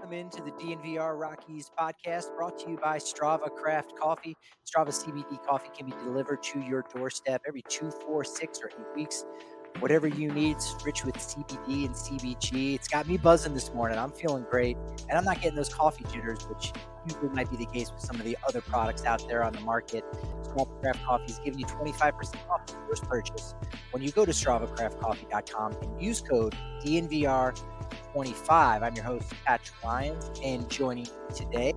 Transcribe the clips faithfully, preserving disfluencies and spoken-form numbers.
Welcome into the D N V R Rockies podcast brought to you by Strava Craft Coffee. Strava C B D coffee can be delivered to your doorstep every two, four, six, or eight weeks. Whatever you need, it's rich with C B D and C B G. It's got me buzzing this morning. I'm feeling great, and I'm not getting those coffee jitters, which usually might be the case with some of the other products out there on the market. Strava Craft Coffee is giving you twenty-five percent off your first purchase when you go to strava craft coffee dot com and use code D N V R twenty-five. I'm your host, Patrick Lyons, and joining me today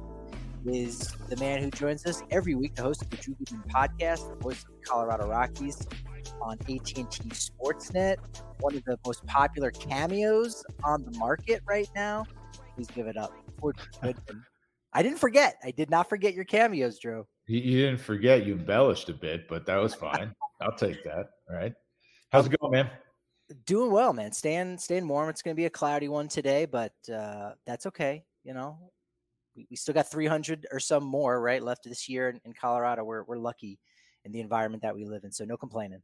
is the man who joins us every week, the host of the Drew Goodman podcast, the voice of the Colorado Rockies on A T and T Sportsnet, one of the most popular cameos on the market right now. Please give it up for Drew Goodman. I didn't forget. I did not forget your cameos, Drew. You, you didn't forget. You embellished a bit, but that was fine. I'll take that. All right. How's it going, man? Doing well, man. Staying staying warm. It's going to be a cloudy one today, but uh, that's okay. You know, we, we still got three hundred or some more, right, left this year in, in Colorado. We're we're lucky in the environment that we live in, so no complaining.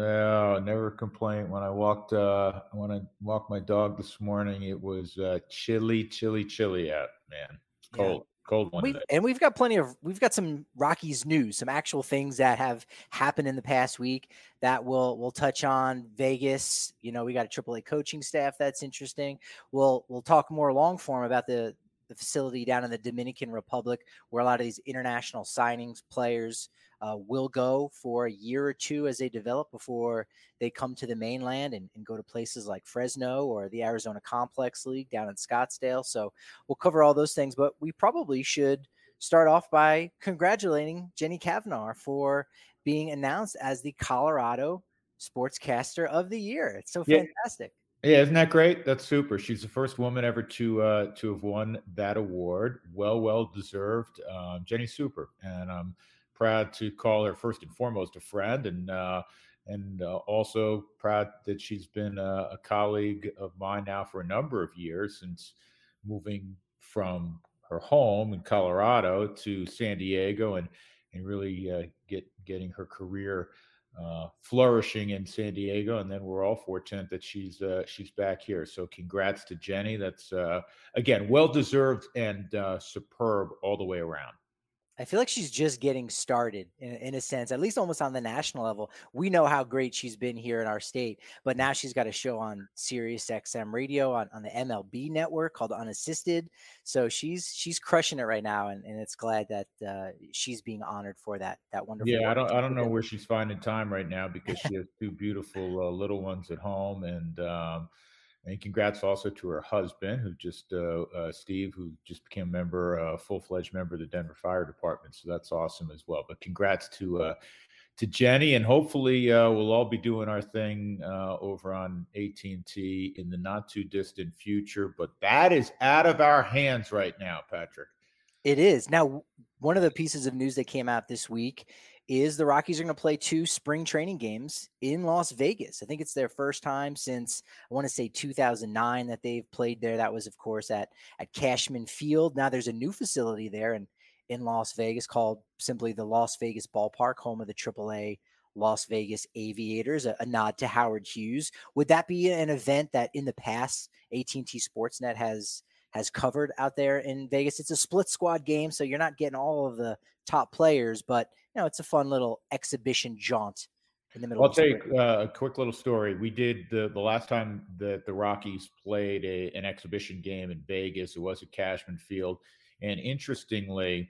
No, never complain. When I walked uh, when I walked my dog this morning, it was uh, chilly, chilly, chilly out, man. It's cold. Yeah. Cold one we've, day. And we've got plenty of, we've got some Rockies news, some actual things that have happened in the past week that we'll, we'll touch on. Vegas, you know, we got a triple A coaching staff. That's interesting. We'll, we'll talk more long form about the, the facility down in the Dominican Republic, where a lot of these international signings players uh, will go for a year or two as they develop before they come to the mainland and, and go to places like Fresno or the Arizona Complex League down in Scottsdale. So we'll cover all those things, but we probably should start off by congratulating Jenny Cavanaugh for being announced as the Colorado Sportscaster of the Year. It's so fantastic. Yeah. Yeah, isn't that great? That's super. She's the first woman ever to uh, to have won that award. Well, well deserved. Um, Jenny's super, and I'm proud to call her first and foremost a friend, and uh, and uh, also proud that she's been a, a colleague of mine now for a number of years, since moving from her home in Colorado to San Diego, and and really uh, get getting her career Uh, flourishing in San Diego, and then we're all fortunate that she's uh, she's back here. So congrats to Jenny. That's uh, again well deserved and uh, superb all the way around. I feel like she's just getting started in, in a sense, at least almost on the national level. We know how great she's been here in our state, but now she's got a show on Sirius X M radio on, on the M L B network called Unassisted. So she's she's crushing it right now, and, and it's glad that uh, she's being honored for that that wonderful. Yeah, I don't I don't know where she's finding time right now, because she has two beautiful uh, little ones at home, and um, and congrats also to her husband, who just uh, uh, Steve, who just became a member, a uh, full-fledged member of the Denver Fire Department. So that's awesome as well. But congrats to uh, to Jenny, and hopefully uh, we'll all be doing our thing uh, over on A T and T in the not too distant future. But that is out of our hands right now, Patrick. It is. Now, one of the pieces of news that came out this week is the Rockies are going to play two spring training games in Las Vegas. I think it's their first time since, I want to say two thousand nine, that they've played there. That was, of course, at, at Cashman Field. Now there's a new facility there in, in Las Vegas called simply the Las Vegas Ballpark, home of the triple A Las Vegas Aviators, a, a nod to Howard Hughes. Would that be an event that in the past A T and T Sportsnet has has covered out there in Vegas? It's a split squad game, so you're not getting all of the top players, but you know, it's a fun little exhibition jaunt in the middle. I'll take uh, a quick little story. We did the, the last time that the Rockies played a, an exhibition game in Vegas. It was at Cashman Field. And interestingly,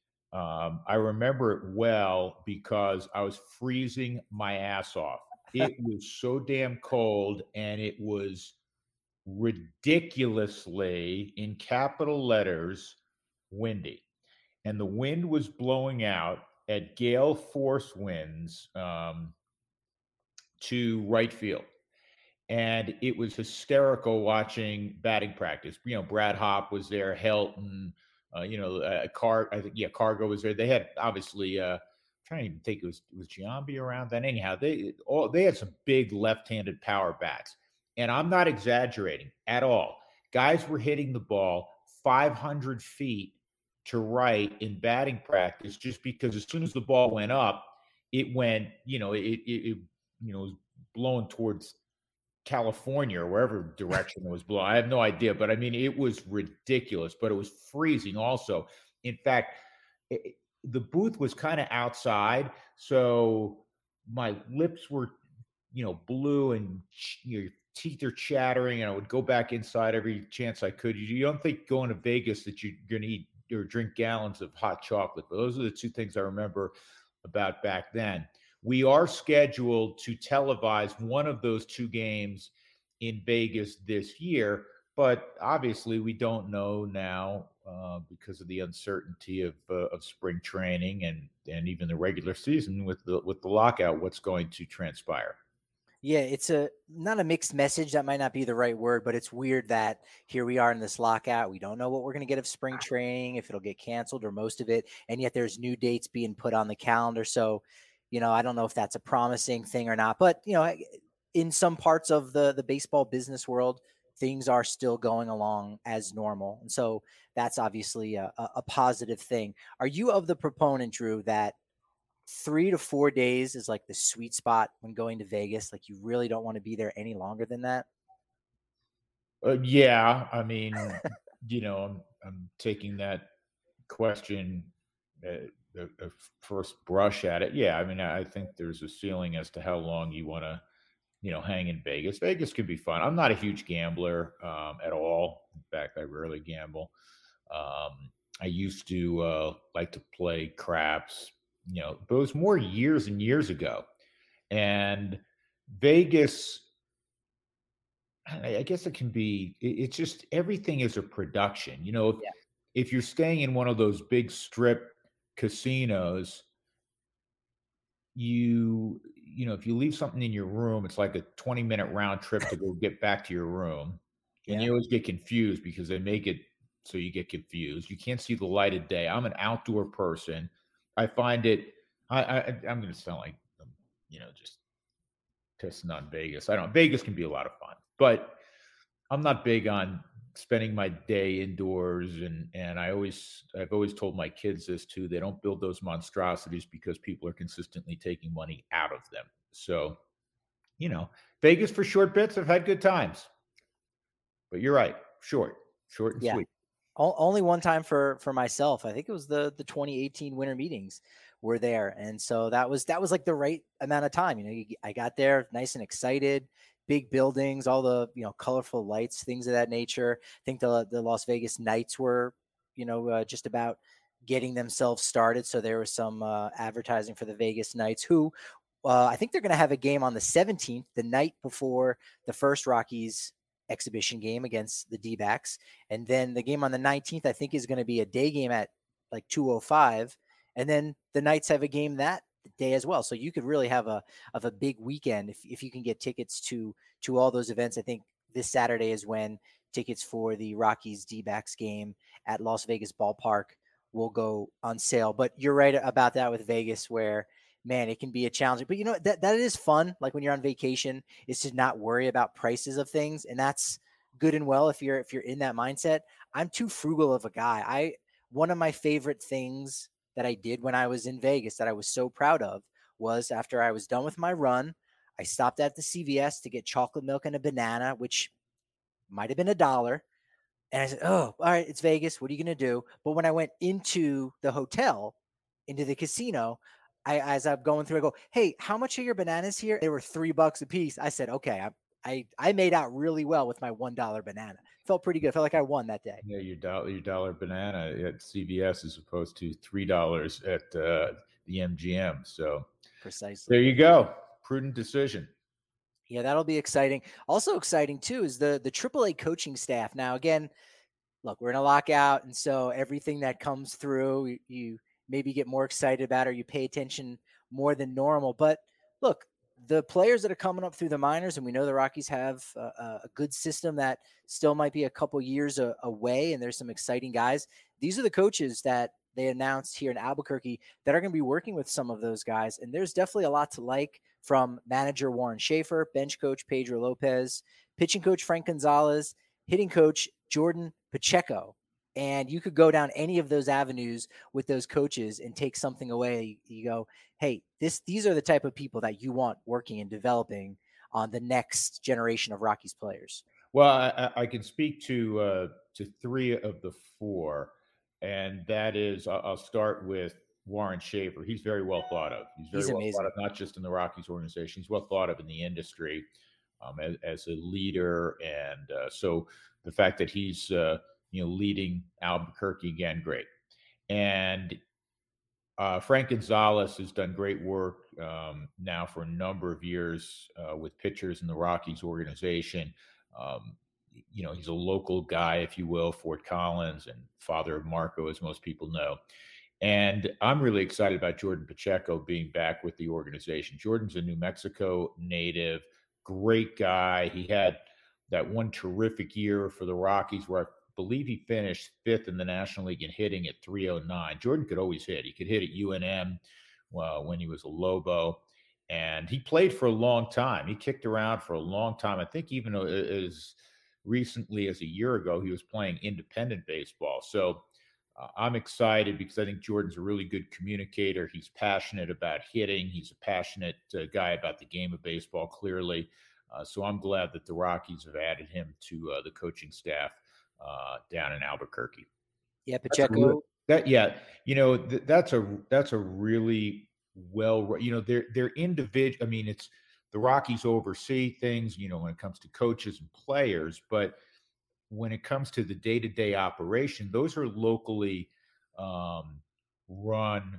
um, I remember it well because I was freezing my ass off. It was so damn cold, and it was ridiculously, in capital letters, windy. And the wind was blowing out at gale force winds um, to right field. And it was hysterical watching batting practice. You know, Brad Hopp was there, Helton, uh, you know, uh, Car, I think, yeah, Cargo was there. They had obviously, uh, I'm trying to even think it was, was Giambi around then. Anyhow, they all they had some big left-handed power bats. And I'm not exaggerating at all. Guys were hitting the ball five hundred feet to right in batting practice, just because as soon as the ball went up, it went, you know, it, it, it you know, was blowing towards California or wherever direction it was blowing. I have no idea, but I mean, it was ridiculous, but it was freezing also. In fact, it, the booth was kind of outside, so my lips were, you know, blue and your teeth are chattering, and I would go back inside every chance I could. You, you don't think going to Vegas that you're going to eat or drink gallons of hot chocolate, but those are the two things I remember about back then. We are scheduled to televise one of those two games in Vegas this year, but obviously we don't know now uh, because of the uncertainty of uh, of spring training and and even the regular season with the with the lockout, what's going to transpire. Yeah, it's a not a mixed message. That might not be the right word, but it's weird that here we are in this lockout. We don't know what we're going to get of spring training, if it'll get canceled or most of it. And yet there's new dates being put on the calendar. So, you know, I don't know if that's a promising thing or not, but you know, in some parts of the, the baseball business world, things are still going along as normal. And so that's obviously a, a a positive thing. Are you of the proponent, Drew, that three to four days is like the sweet spot when going to Vegas? Like you really don't want to be there any longer than that? Uh, yeah, I mean, you know, I'm I'm taking that question, uh, the, the first brush at it. Yeah, I mean, I think there's a ceiling as to how long you want to, you know, hang in Vegas. Vegas can be fun. I'm not a huge gambler um, at all. In fact, I rarely gamble. Um, I used to uh, like to play craps, you know, but it was more years and years ago. And Vegas, I I guess it can be. it- It's just everything is a production. You know, if Yeah. if you're staying in one of those big strip casinos, you you know, if you leave something in your room, it's like a twenty minute round trip to go get back to your room. And Yeah. you always get confused because they make it so you get confused. You can't see the light of day. I'm an outdoor person. I find it I, I I'm gonna sound like I'm, you know, just pissing on Vegas. I don't Vegas can be a lot of fun, but I'm not big on spending my day indoors, and and I always I've always told my kids this too. They don't build those monstrosities because people are consistently taking money out of them. So, you know, Vegas for short bits, I've had good times. But you're right, short, short and Yeah. sweet. O- only one time for for myself. I think it was the the twenty eighteen winter meetings were there, and so that was that was like the right amount of time. You know, you, I got there nice and excited. Big buildings, all the you know colorful lights, things of that nature. I think the the Las Vegas Knights were you know uh, just about getting themselves started, so there was some uh, advertising for the Vegas Knights, who uh, I think they're going to have a game on the seventeenth, the night before the first Rockies exhibition game against the D-backs. And then the game on the nineteenth, I think, is going to be a day game at like two oh five. And then the Knights have a game that day as well. So you could really have a of a big weekend if, if you can get tickets to to all those events. I think this Saturday is when tickets for the Rockies D-backs game at Las Vegas Ballpark will go on sale. But you're right about that with Vegas, where man, it can be a challenge. But you know that that is fun. Like when you're on vacation, is to not worry about prices of things, and that's good and well if you're if you're in that mindset. I'm too frugal of a guy. I One of my favorite things that I did when I was in Vegas that I was so proud of was after I was done with my run, I stopped at the C V S to get chocolate milk and a banana, which might have been a dollar. And I said, "Oh, all right, it's Vegas. What are you going to do?" But when I went into the hotel, into the casino, I as I'm going through, I go, "Hey, how much are your bananas here?" They were three bucks a piece. I said, "Okay, I I, I made out really well with my one dollar banana. Felt pretty good. Felt like I won that day." Yeah, your dollar your dollar banana at C V S as opposed to three dollars at uh, the M G M. So there Precisely. you go. Prudent decision. Yeah, that'll be exciting. Also exciting too is the the triple A coaching staff. Now, again, look, we're in a lockout, and so everything that comes through, you, you maybe get more excited about, or you pay attention more than normal. But look, the players that are coming up through the minors, and we know the Rockies have a, a good system that still might be a couple years a, away, and there's some exciting guys. These are the coaches that they announced here in Albuquerque that are going to be working with some of those guys, and there's definitely a lot to like from manager Warren Schaefer, bench coach Pedro Lopez, pitching coach Frank Gonzalez, hitting coach Jordan Pacheco. And you could go down any of those avenues with those coaches and take something away. You go, hey, this these are the type of people that you want working and developing on the next generation of Rockies players? Well, I, I can speak to uh, to three of the four, and that is I'll, I'll start with Warren Schaefer. He's very well thought of. He's very He's well thought amazing. of, not just in the Rockies organization. He's well thought of in the industry um, as, as a leader, and uh, so the fact that he's uh, you know leading Albuquerque again, great. And uh, Frank Gonzalez has done great work um, now for a number of years uh, with pitchers in the Rockies organization. Um, you know, he's a local guy, if you will, Fort Collins, and father of Marco, as most people know. And I'm really excited about Jordan Pacheco being back with the organization. Jordan's a New Mexico native, great guy. He had that one terrific year for the Rockies where I believe he finished fifth in the National League in hitting at three oh nine. Jordan could always hit. He could hit at U N M uh, when he was a Lobo. And he played for a long time. He kicked around for a long time. I think even as recently as a year ago, he was playing independent baseball. So uh, I'm excited because I think Jordan's a really good communicator. He's passionate about hitting. He's a passionate uh, guy about the game of baseball, clearly. Uh, so I'm glad that the Rockies have added him to uh, the coaching staff uh, down in Albuquerque. Yeah, Pacheco. Really, that yeah, you know th- that's a that's a really well, you know, they're they're individual. I mean, it's the Rockies oversee things, you know, when it comes to coaches and players, but when it comes to the day-to-day operation, those are locally um, run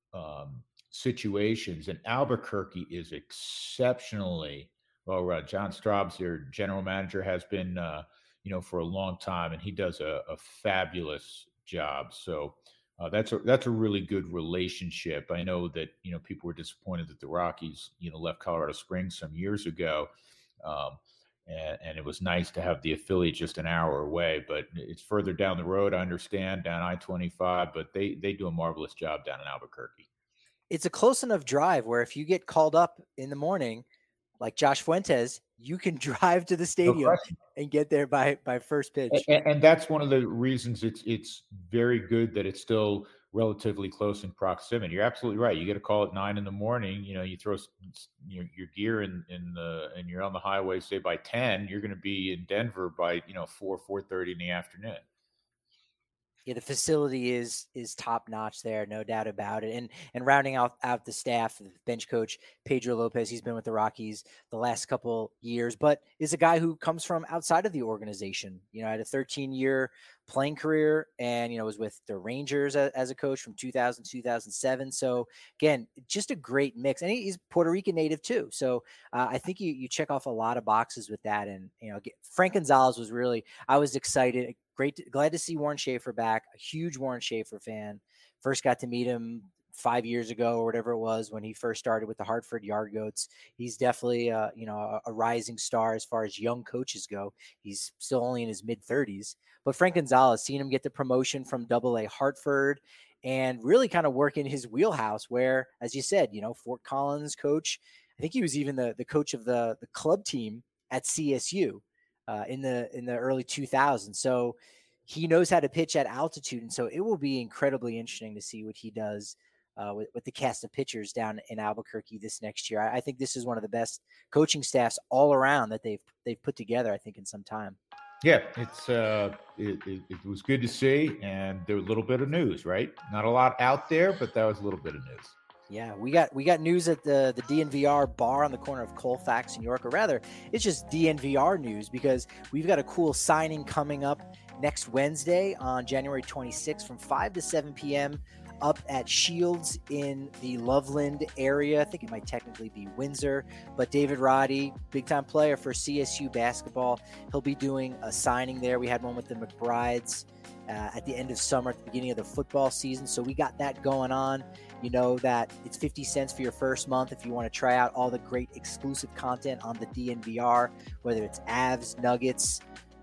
um, situations, and Albuquerque is exceptionally well run. John Straub's, their general manager, has been, uh, you know, for a long time, and he does a, a fabulous job. So uh, that's a that's a really good relationship. I know that you know people were disappointed that the Rockies, you know, left Colorado Springs some years ago. Um, and, and it was nice to have the affiliate just an hour away, but it's further down the road. I understand, down I twenty-five, but they they do a marvelous job down in Albuquerque. It's a close enough drive where if you get called up in the morning, like Josh Fuentes, you can drive to the No stadium question. and get there by by first pitch. And, and that's one of the reasons it's it's very good that it's still relatively close in proximity. You're absolutely right. You get a call at nine in the morning. You know, you throw your, your gear in in the and you're on the highway. Say by ten, you're going to be in Denver by you know four four thirty in the afternoon. Yeah, the facility is is top notch there, no doubt about it. And and rounding out out the staff, the bench coach Pedro Lopez, he's been with the Rockies the last couple years, but is a guy who comes from outside of the organization. You know, had a thirteen year playing career, and you know was with the Rangers as, as a coach from two thousand two thousand seven. So again, just a great mix, and he's Puerto Rican native too. So uh, I think you you check off a lot of boxes with that. And you know, Frank Gonzalez was really I was excited. Great, to, glad to see Warren Schaefer back. A huge Warren Schaefer fan. First got to meet him five years ago or whatever it was when he first started with the Hartford Yard Goats. He's definitely, uh, you know, a, a rising star as far as young coaches go. He's still only in his mid thirties. But Frank Gonzalez, seeing him get the promotion from Double A Hartford and really kind of work in his wheelhouse where, as you said, you know, Fort Collins coach. I think he was even the, the coach of the, the club team at C S U. Uh, in the in the early two thousands. So he knows how to pitch at altitude. And so it will be incredibly interesting to see what he does uh, with, with the cast of pitchers down in Albuquerque this next year. I, I think this is one of the best coaching staffs all around that they've they've put together, I think, in some time. Yeah, it's uh, it, it, it was good to see, and there was a little bit of news, right? Not a lot out there, but that was a little bit of news. Yeah, we got we got news at the the D N V R bar on the corner of Colfax and York, or rather, it's just D N V R news because we've got a cool signing coming up next Wednesday on January twenty-sixth from five to seven p.m. up at Shields in the Loveland area. I think it might technically be Windsor, but David Roddy, big time player for C S U basketball, he'll be doing a signing there. We had one with the McBrides uh, at the end of summer, at the beginning of the football season, so we got that going on. You know that it's fifty cents for your first month if you want to try out all the great exclusive content on the D N V R, whether it's Avs, Nuggets,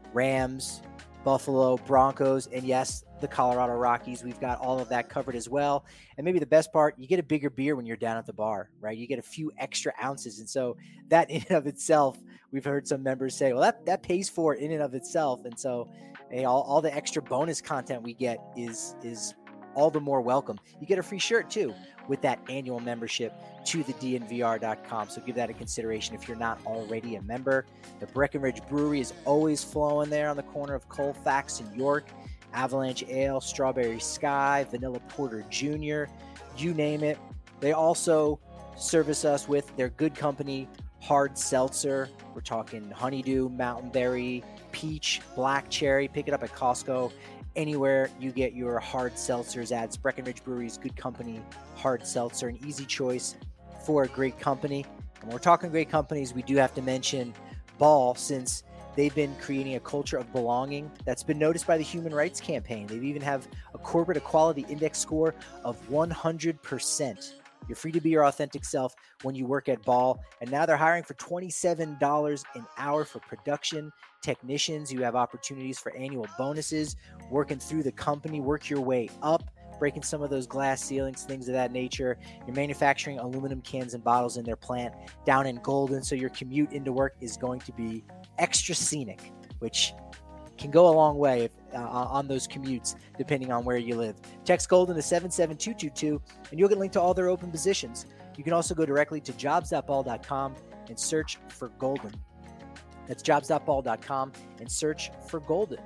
Rams, Buffalo, Broncos, and yes, the Colorado Rockies. We've got all of that covered as well. And maybe the best part, you get a bigger beer when you're down at the bar, right? You get a few extra ounces. And so that in and of itself, we've heard some members say, well, that, that pays for it in and of itself. And so hey, all, all the extra bonus content we get is, is all the more welcome. You get a free shirt too with that annual membership to the D N V R dot com. So give that a consideration if you're not already a member. The Breckenridge Brewery is always flowing there on the corner of Colfax and York. Avalanche Ale, Strawberry Sky, Vanilla Porter Junior, you name it. They also service us with their Good Company hard seltzer. We're talking honeydew, mountain berry, peach, black cherry. Pick it up at Costco. Anywhere you get your hard seltzers at. It's Breckenridge Brewery's Good Company hard seltzer, an easy choice for a great company. And when we're talking great companies, we do have to mention Ball, since they've been creating a culture of belonging that's been noticed by the Human Rights Campaign. They even have a corporate equality index score of one hundred percent. You're free to be your authentic self when you work at Ball. And now they're hiring for twenty-seven dollars an hour for production technicians. You have opportunities for annual bonuses, working through the company, work your way up, breaking some of those glass ceilings, things of that nature. You're manufacturing aluminum cans and bottles in their plant down in Golden, so your commute into work is going to be extra scenic, which can go a long way if, uh, on those commutes, depending on where you live. Text Golden to seven seven two two two, and you'll get linked to all their open positions. You can also go directly to jobs dot ball dot com and search for Golden. That's jobs dot ball dot com and search for Golden.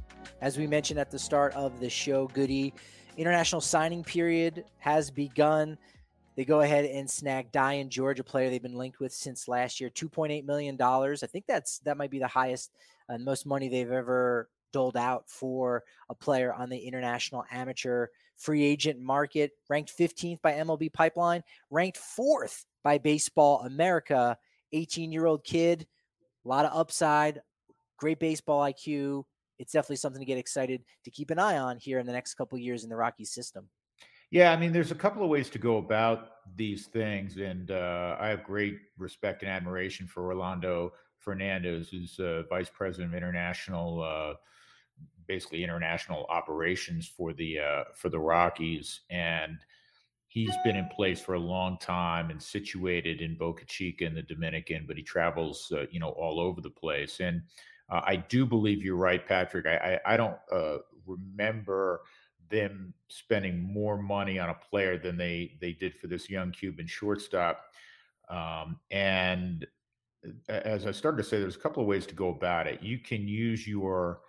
As we mentioned at the start of the show, Goody, international signing period has begun. They go ahead and snag Dian George, a player they've been linked with since last year, two point eight million dollars. I think that's that might be the highest and most money they've ever doled out for a player on the international amateur free agent market. Ranked fifteenth by M L B Pipeline, ranked fourth by Baseball America. eighteen-year-old kid, a lot of upside, great baseball I Q. It's definitely something to get excited to keep an eye on here in the next couple of years in the Rockies system. Yeah, I mean, there's a couple of ways to go about these things, and uh, I have great respect and admiration for Rolando Fernandez, who's uh, vice president of international, uh, basically international operations for the uh, for the Rockies, and he's been in place for a long time and situated in Boca Chica in the Dominican, but he travels, uh, you know, all over the place. And uh, I do believe you're right, Patrick. I I, I don't uh, remember them spending more money on a player than they they did for this young Cuban shortstop. Um, and as I started to say, there's a couple of ways to go about it. You can use your,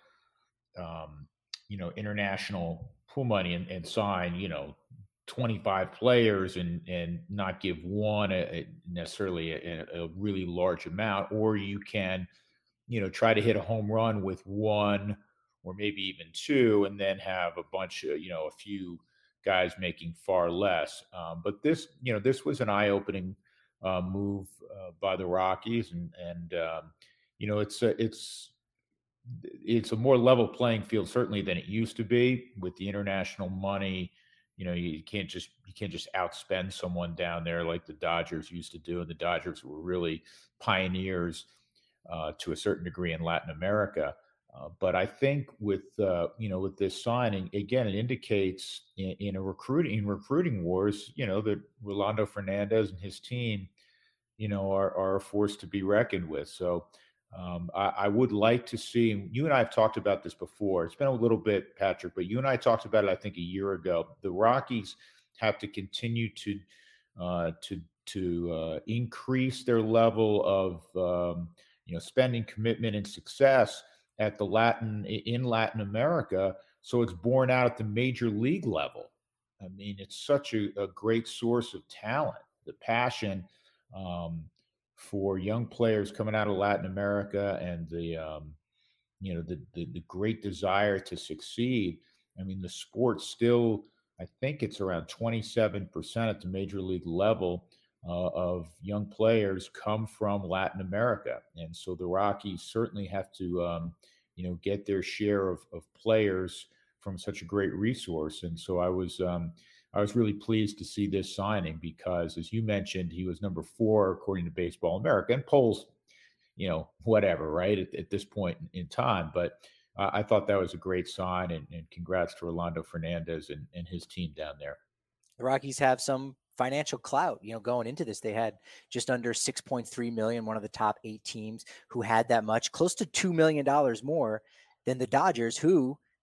um, you know, international pool money and, and sign, you know, twenty-five players and and not give one a, a necessarily a, a really large amount, or you can, you know, try to hit a home run with one or maybe even two, and then have a bunch of, you know, a few guys making far less. Um, but this, you know, this was an eye-opening uh, move uh, by the Rockies, and and um, you know, it's a, it's it's a more level playing field certainly than it used to be with the international money. You know, you can't just you can't just outspend someone down there like the Dodgers used to do, and the Dodgers were really pioneers uh, to a certain degree in Latin America. Uh, but I think with uh, you know, with this signing, again, it indicates in, in a recruiting in recruiting wars, you know, that Rolando Fernandez and his team, you know, are are a force to be reckoned with. So um, I, I would like to see. And you and I have talked about this before. It's been a little bit, Patrick, but you and I talked about it, I think, a year ago. The Rockies have to continue to uh, to to uh, increase their level of um, you know, spending, commitment, and success at the Latin in Latin America, so it's borne out at the major league level. I mean, it's such a, a great source of talent, the passion um, for young players coming out of Latin America, and the um, you know, the, the the great desire to succeed. I mean, the sport still, I think it's around twenty-seven percent at the major league level uh, of young players come from Latin America, and so the Rockies certainly have to, um, you know, get their share of, of players from such a great resource. And so I was, um, I was really pleased to see this signing because, as you mentioned, he was number four according to Baseball America, and polls, you know, whatever, right, at, at this point in time. But uh, I thought that was a great sign, and, and congrats to Rolando Fernandez and, and his team down there. The Rockies have some financial clout. You know, going into this, they had just under six point three million, one of the top eight teams who had that much, close to two million dollars more than the Dodgers, who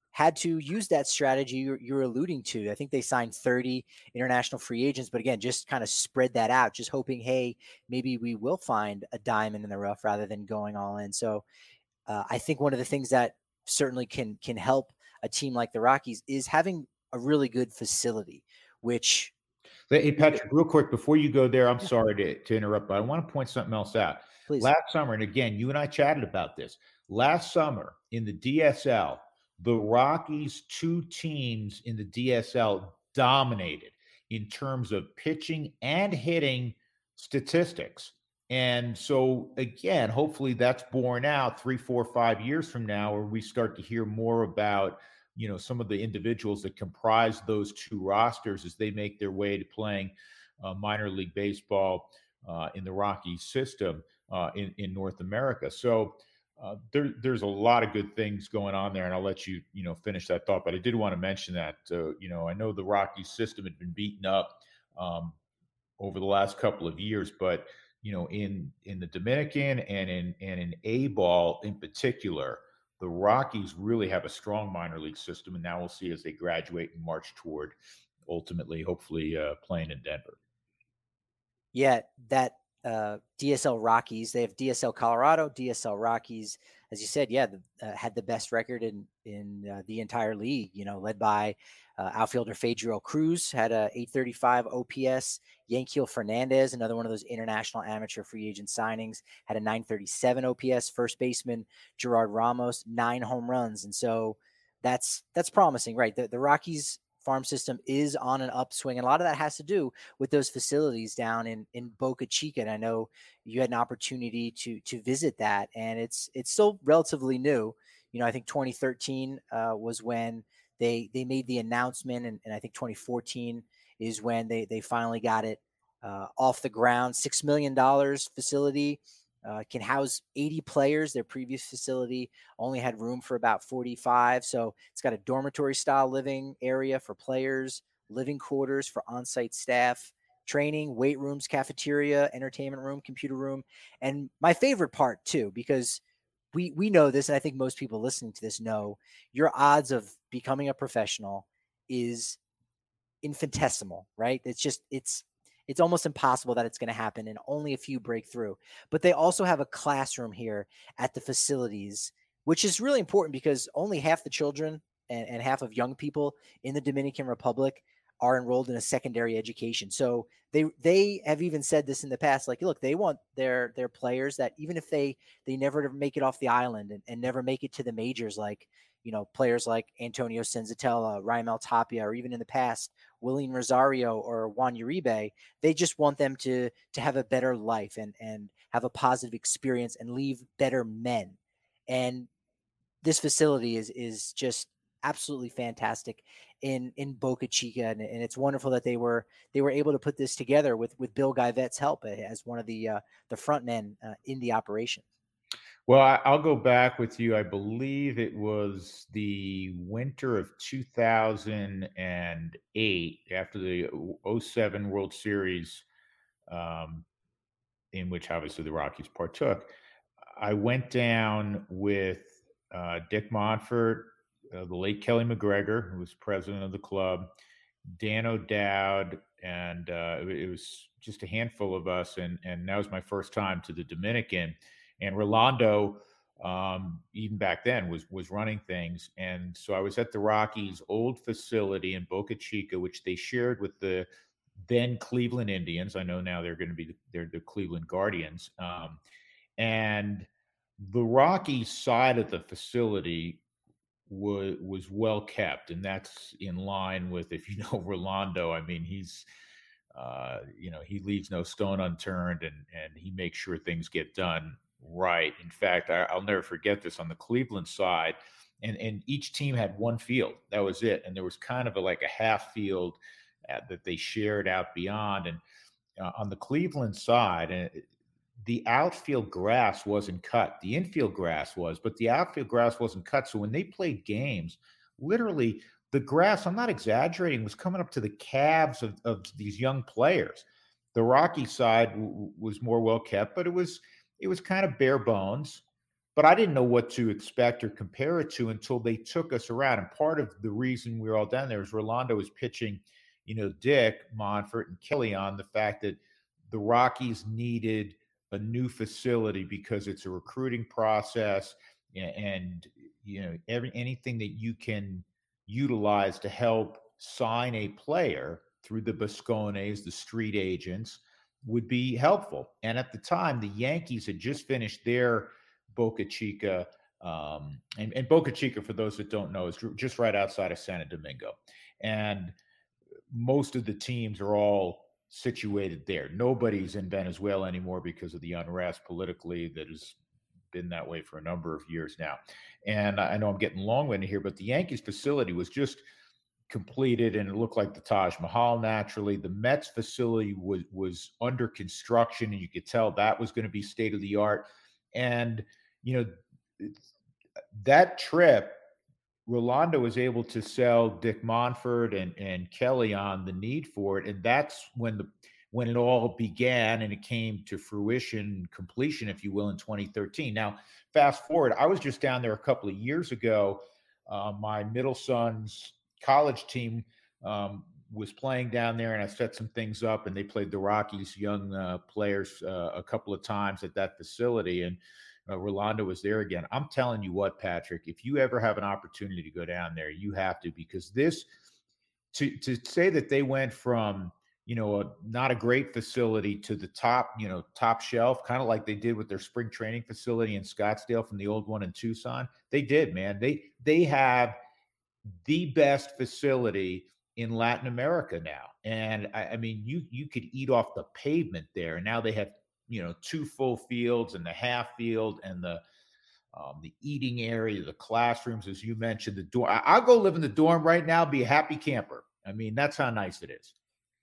had to use that strategy you're, you're alluding to. I think they signed thirty international free agents, but again, just kind of spread that out, just hoping, hey, maybe we will find a diamond in the rough rather than going all in. So uh, I think one of the things that certainly can can help a team like the Rockies is having a really good facility, which Hey, Patrick, real quick before you go there, I'm yeah, sorry to, to interrupt, but I want to point something else out. please. Last summer, and again, you and I chatted about this. Last summer in the D S L, the Rockies' two teams in the D S L dominated in terms of pitching and hitting statistics. And so, again, hopefully that's borne out three, four, five years from now, where we start to hear more about you know some of the individuals that comprise those two rosters as they make their way to playing uh, minor league baseball uh, in the Rockies system uh, in in North America. So uh, there, there's a lot of good things going on there, and I'll let you you know finish that thought. But I did want to mention that uh, you know I know the Rockies system had been beaten up um, over the last couple of years, but you know in in the Dominican and in and in A ball in particular, the Rockies really have a strong minor league system, and now we'll see as they graduate and march toward ultimately, hopefully, uh, playing in Denver. Yeah, that uh, D S L Rockies. They have D S L Colorado, D S L Rockies. As you said, yeah, the, uh, had the best record in in uh, the entire league. You know, led by uh, outfielder Fadriel Cruz, had a eight thirty-five O P S. Yanquiel Fernandez, another one of those international amateur free agent signings, had a nine thirty-seven O P S. First baseman Gerard Ramos, nine home runs, and so that's that's promising, right? The the Rockies farm system is on an upswing, and a lot of that has to do with those facilities down in in Boca Chica. And I know you had an opportunity to to visit that, and it's it's still relatively new. You know, I think twenty thirteen uh, was when they they made the announcement, and, and I think twenty fourteen is when they they finally got it uh, off the ground. Six million dollars facility. Uh, can house eighty players. Their previous facility only had room for about forty-five. So it's got a dormitory style living area for players, living quarters for on-site staff, training, weight rooms, cafeteria, entertainment room, computer room. And my favorite part too, because we, we know this, and I think most people listening to this know, your odds of becoming a professional is infinitesimal, right? It's just, it's, it's almost impossible that it's going to happen, and only a few break through. But they also have a classroom here at the facilities, which is really important because only half the children and, and half of young people in the Dominican Republic are enrolled in a secondary education. So they they have even said this in the past, like, look, they want their their players that even if they they never make it off the island and, and never make it to the majors, like, you know, players like Antonio Senzatella, Raimel Tapia, or even in the past, William Rosario or Juan Uribe, they just want them to to have a better life and and have a positive experience and leave better men. And this facility is is just absolutely fantastic in in Boca Chica, and, and it's wonderful that they were they were able to put this together with with Bill Guyvet's help as one of the uh, the front men uh, in the operation. Well, I, I'll go back with you. I believe it was the winter of two thousand eight, after the oh seven World Series, um, in which obviously the Rockies partook. I went down with uh, Dick Monfort, uh, the late Kelly McGregor, who was president of the club, Dan O'Dowd, and uh, it, it was just a handful of us. And and that was my first time to the Dominican. And Rolando, um, even back then, was was running things. And so I was at the Rockies' old facility in Boca Chica, which they shared with the then Cleveland Indians. I know now they're going to be the, they're the Cleveland Guardians. Um, and the Rockies side of the facility was was well kept, and that's in line with, if you know Rolando, I mean, he's uh, you know he leaves no stone unturned, and and he makes sure things get done right. In fact, I, I'll never forget this on the Cleveland side, and and each team had one field, that was it, and there was kind of a, like a half field uh, that they shared out beyond, and uh, on the Cleveland side, and the outfield grass wasn't cut. The infield grass was, but the outfield grass wasn't cut. So when they played games, literally the grass, I'm not exaggerating, was coming up to the calves of, of these young players. The Rocky side w- was more well kept, but it was it was kind of bare bones. but I didn't know what to expect or compare it to until they took us around. And part of the reason we were all down there is Rolando was pitching, you know, Dick Monfort and Kelly on the fact that the Rockies needed a new facility because it's a recruiting process, and you know every anything that you can utilize to help sign a player through the Boscones, the street agents, would be helpful. And at the time, the Yankees had just finished their Boca Chica, um, and, and Boca Chica, for those that don't know, is just right outside of Santo Domingo. And most of the teams are all situated there. Nobody's in Venezuela anymore because of the unrest politically that has been that way for a number of years now. And I know I'm getting long-winded here, but the Yankees facility was just completed and it looked like the Taj Mahal naturally. The Mets facility was was under construction and you could tell that was going to be state of the art. And you know, that trip, Rolando was able to sell Dick Monfort and, and Kelly on the need for it. And that's when the when it all began and it came to fruition, completion, if you will, in twenty thirteen. Now, fast forward, I was just down there a couple of years ago. Uh, my middle son's college team um, was playing down there, and I set some things up, and they played the Rockies young uh, players uh, a couple of times at that facility. And uh, Rolando was there again. I'm telling you what, Patrick, if you ever have an opportunity to go down there, you have to, because this, to to say that they went from, you know, a, not a great facility to the top, you know, top shelf, kind of like they did with their spring training facility in Scottsdale from the old one in Tucson. They did, man. They they have the best facility in Latin America now. And I, I mean, you you could eat off the pavement there. And now they have, you know, two full fields and the half field and the um, the eating area, the classrooms, as you mentioned, the dorm. I, I'll go live in the dorm right now, be a happy camper. I mean, that's how nice it is.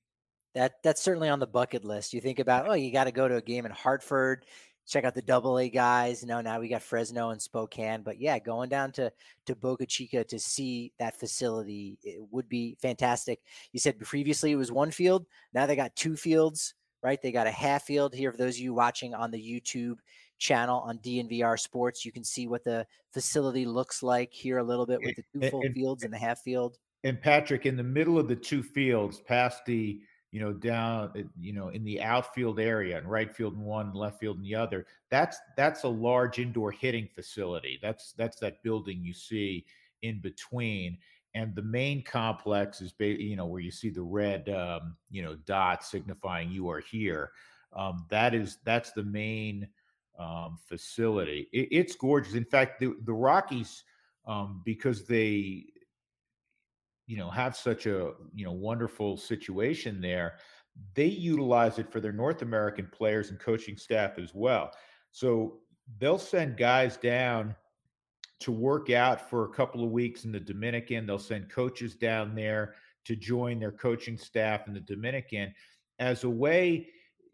That that's certainly on the bucket list. You think about, oh, you got to go to a game in Hartford, check out the Double A guys. You know, now we got Fresno and Spokane, but yeah, going down to to Boca Chica to see that facility, it would be fantastic. You said previously it was one field, now they got two fields, right? They got a half field here. For those of you watching on the YouTube channel on D N V R Sports, you can see what the facility looks like here a little bit with the two And, full and, fields and the half field. and Patrick, in the middle of the two fields, past the you know, down, you know, in the outfield area and right field in one, left field in the other. That's that's a large indoor hitting facility. That's that's that building you see in between. And the main complex is, you know, where you see the red, um, you know, dot signifying you are here. Um, that is that's the main um, facility. It, it's gorgeous. In fact, the the Rockies, um, because they you know have such a you know wonderful situation there, they utilize it for their North American players and coaching staff as well. So they'll send guys down to work out for a couple of weeks in the Dominican. They'll send coaches down there to join their coaching staff in the Dominican as a way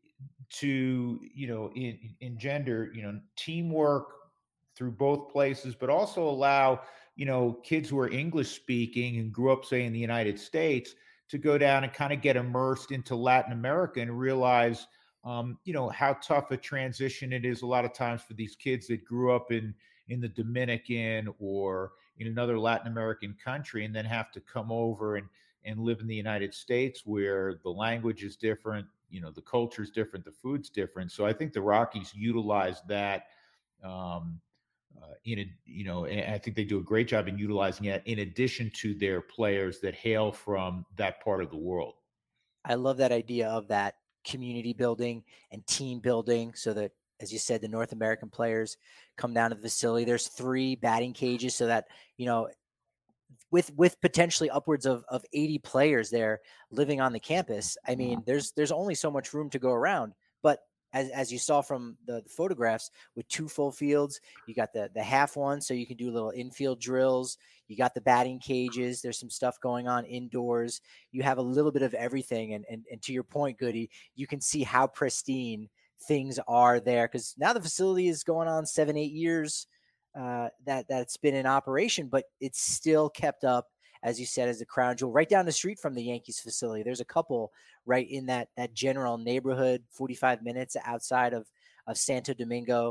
to you know in, engender you know teamwork through both places, but also allow you know kids who are English speaking and grew up, say, in the United States, to go down and kind of get immersed into Latin America and realize um, you know how tough a transition it is a lot of times for these kids that grew up in in the Dominican or in another Latin American country and then have to come over and and live in the United States where the language is different, you know, the culture is different, the food's different. So I think the Rockies utilize that um, uh, in a, you know, and I think they do a great job in utilizing it in addition to their players that hail from that part of the world. I love that idea of that community building and team building so that, as you said, the North American players come down to the facility. There's three batting cages so that, you know, with with potentially upwards of, of eighty players there living on the campus. I mean, there's there's only so much room to go around. But as, as you saw from the, the photographs, with two full fields, you got the the half one, so you can do little infield drills. You got the batting cages. There's some stuff going on indoors. You have a little bit of everything. And and, and to your point, Goody, you can see how pristine things are there, because now the facility is going on seven, eight years uh, that that's been in operation, but it's still kept up, as you said, as a crown jewel right down the street from the Yankees facility. There's a couple right in that that general neighborhood, forty-five minutes outside of of Santo Domingo.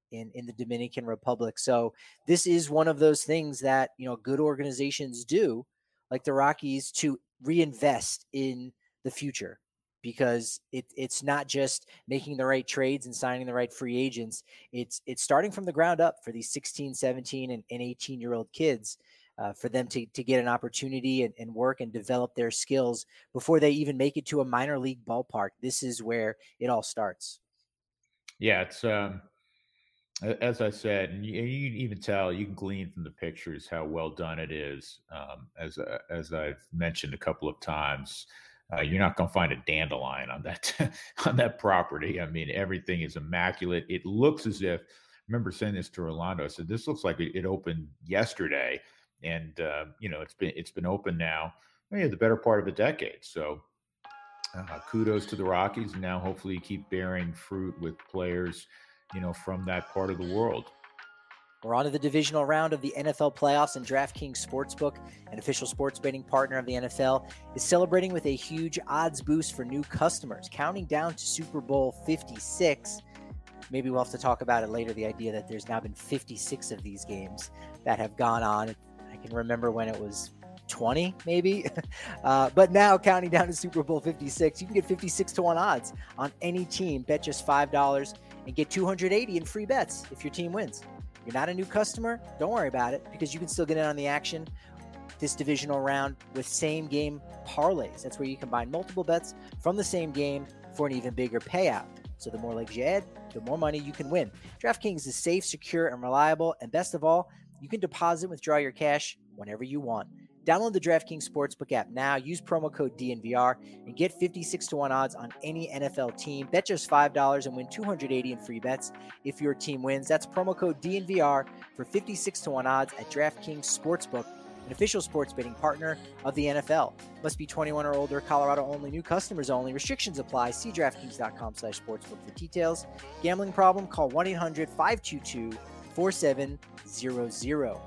in, in the Dominican Republic. So this is one of those things that, you know, good organizations do, like the Rockies, to reinvest in the future, because it, it's not just making the right trades and signing the right free agents. It's it's starting from the ground up for these sixteen, seventeen, and, and eighteen year old kids, uh, for them to, to get an opportunity and, and work and develop their skills before they even make it to a minor league ballpark. This is where it all starts. Yeah, it's um, as I said, and you, you can even tell, you can glean from the pictures how well done it is. Um, as uh, as I've mentioned a couple of times, uh, you're not going to find a dandelion on that on that property. I mean, everything is immaculate. It looks as if. I remember saying this to Orlando. I said, "This looks like it, it opened yesterday," and uh, you know, it's been it's been open now, yeah, the better part of a decade. So. Uh, kudos to the Rockies, and now hopefully you keep bearing fruit with players, you know, from that part of the world. We're on to the divisional round of the N F L playoffs, and DraftKings Sportsbook, an official sports betting partner of the N F L, is celebrating with a huge odds boost for new customers, counting down to Super Bowl fifty-six. Maybe we'll have to talk about it later, the idea that there's now been fifty-six of these games that have gone on. I can remember when it was twenty, maybe. Uh, but now, counting down to Super Bowl fifty-six, you can get fifty-six to one odds on any team. Bet just five dollars and get two hundred eighty in free bets if your team wins. You're not a new customer, don't worry about it, because you can still get in on the action this divisional round with same game parlays. That's where you combine multiple bets from the same game for an even bigger payout. So the more legs you add, the more money you can win. DraftKings is safe, secure, and reliable. And best of all, you can deposit and withdraw your cash whenever you want. Download the DraftKings Sportsbook app now. Use promo code D N V R and get fifty-six to one odds on any N F L team. Bet just five dollars and win two hundred eighty in free bets if your team wins. That's promo code D N V R for fifty-six to one odds at DraftKings Sportsbook, an official sports betting partner of the N F L. Must be twenty-one or older, Colorado only, new customers only. Restrictions apply. See DraftKings.com slash sportsbook for details. Gambling problem? Call one eight hundred five two two four seven zero zero.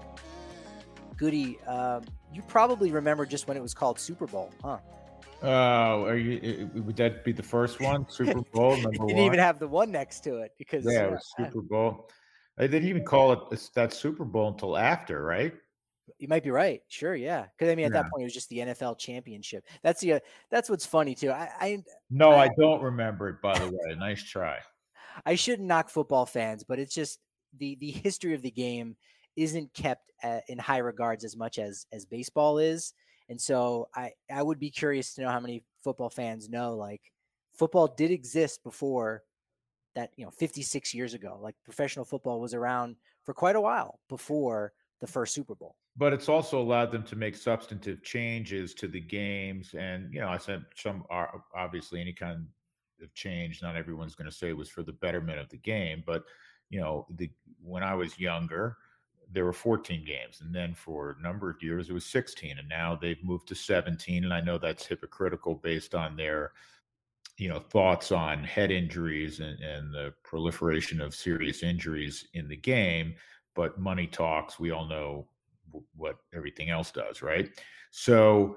Goody, um, you probably remember just when it was called Super Bowl, huh? Oh, uh, are you? Would that be the first one? Super Bowl number didn't one. Didn't even have the one next to it because yeah, it was uh, Super Bowl. They didn't even call it that Super Bowl until after, right? You might be right. Sure, yeah. Because I mean, at yeah. that point, it was just the N F L championship. That's the uh, that's what's funny too. I, I no, I, I don't remember it. By the way, nice try. I shouldn't knock football fans, but it's just the the history of the game isn't kept uh, in high regards as much as as baseball is. And so I I would be curious to know how many football fans know, like, football did exist before that, you know, fifty-six years ago. Like, professional football was around for quite a while before the first Super Bowl. But it's also allowed them to make substantive changes to the games. And, you know, I said some are obviously any kind of change, not everyone's going to say it was for the betterment of the game. But, you know, the when I was younger, there were fourteen games, and then for a number of years it was sixteen, and now they've moved to seventeen. And I know that's hypocritical based on their, you know, thoughts on head injuries and, and the proliferation of serious injuries in the game. But money talks. We all know w- what everything else does, right? So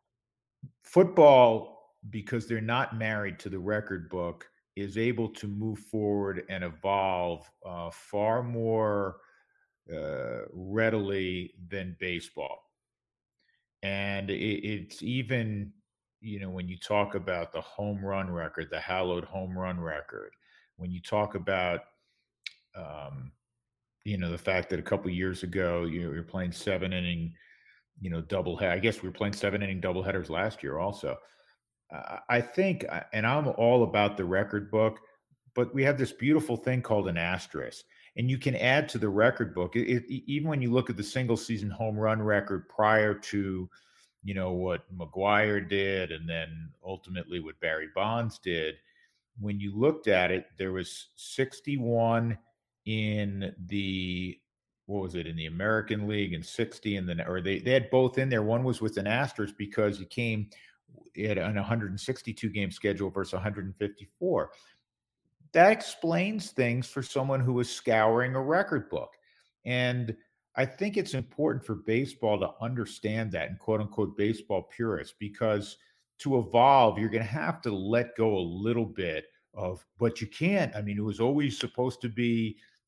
football, because they're not married to the record book, is able to move forward and evolve uh, far more Uh, readily than baseball. And it, it's even, you know, when you talk about the home run record, the hallowed home run record, when you talk about, um, you know, the fact that a couple of years ago you know, you're playing seven inning, you know, double head. I guess we were playing seven inning double headers last year also. Uh, I think, and I'm all about the record book, but we have this beautiful thing called an asterisk. And you can add to the record book. It, it, even when you look at the single season home run record prior to, you know, what McGwire did, and then ultimately what Barry Bonds did, when you looked at it, there was sixty-one in the, what was it, in the American League, and sixty in the, or they, they had both in there. One was with an asterisk because he came at an one hundred sixty-two game schedule versus one hundred fifty-four. That explains things for someone who is scouring a record book. And I think it's important for baseball to understand that, and quote unquote baseball purists, because to evolve, you're going to have to let go a little bit of, but you can't. I mean, it was always supposed to be,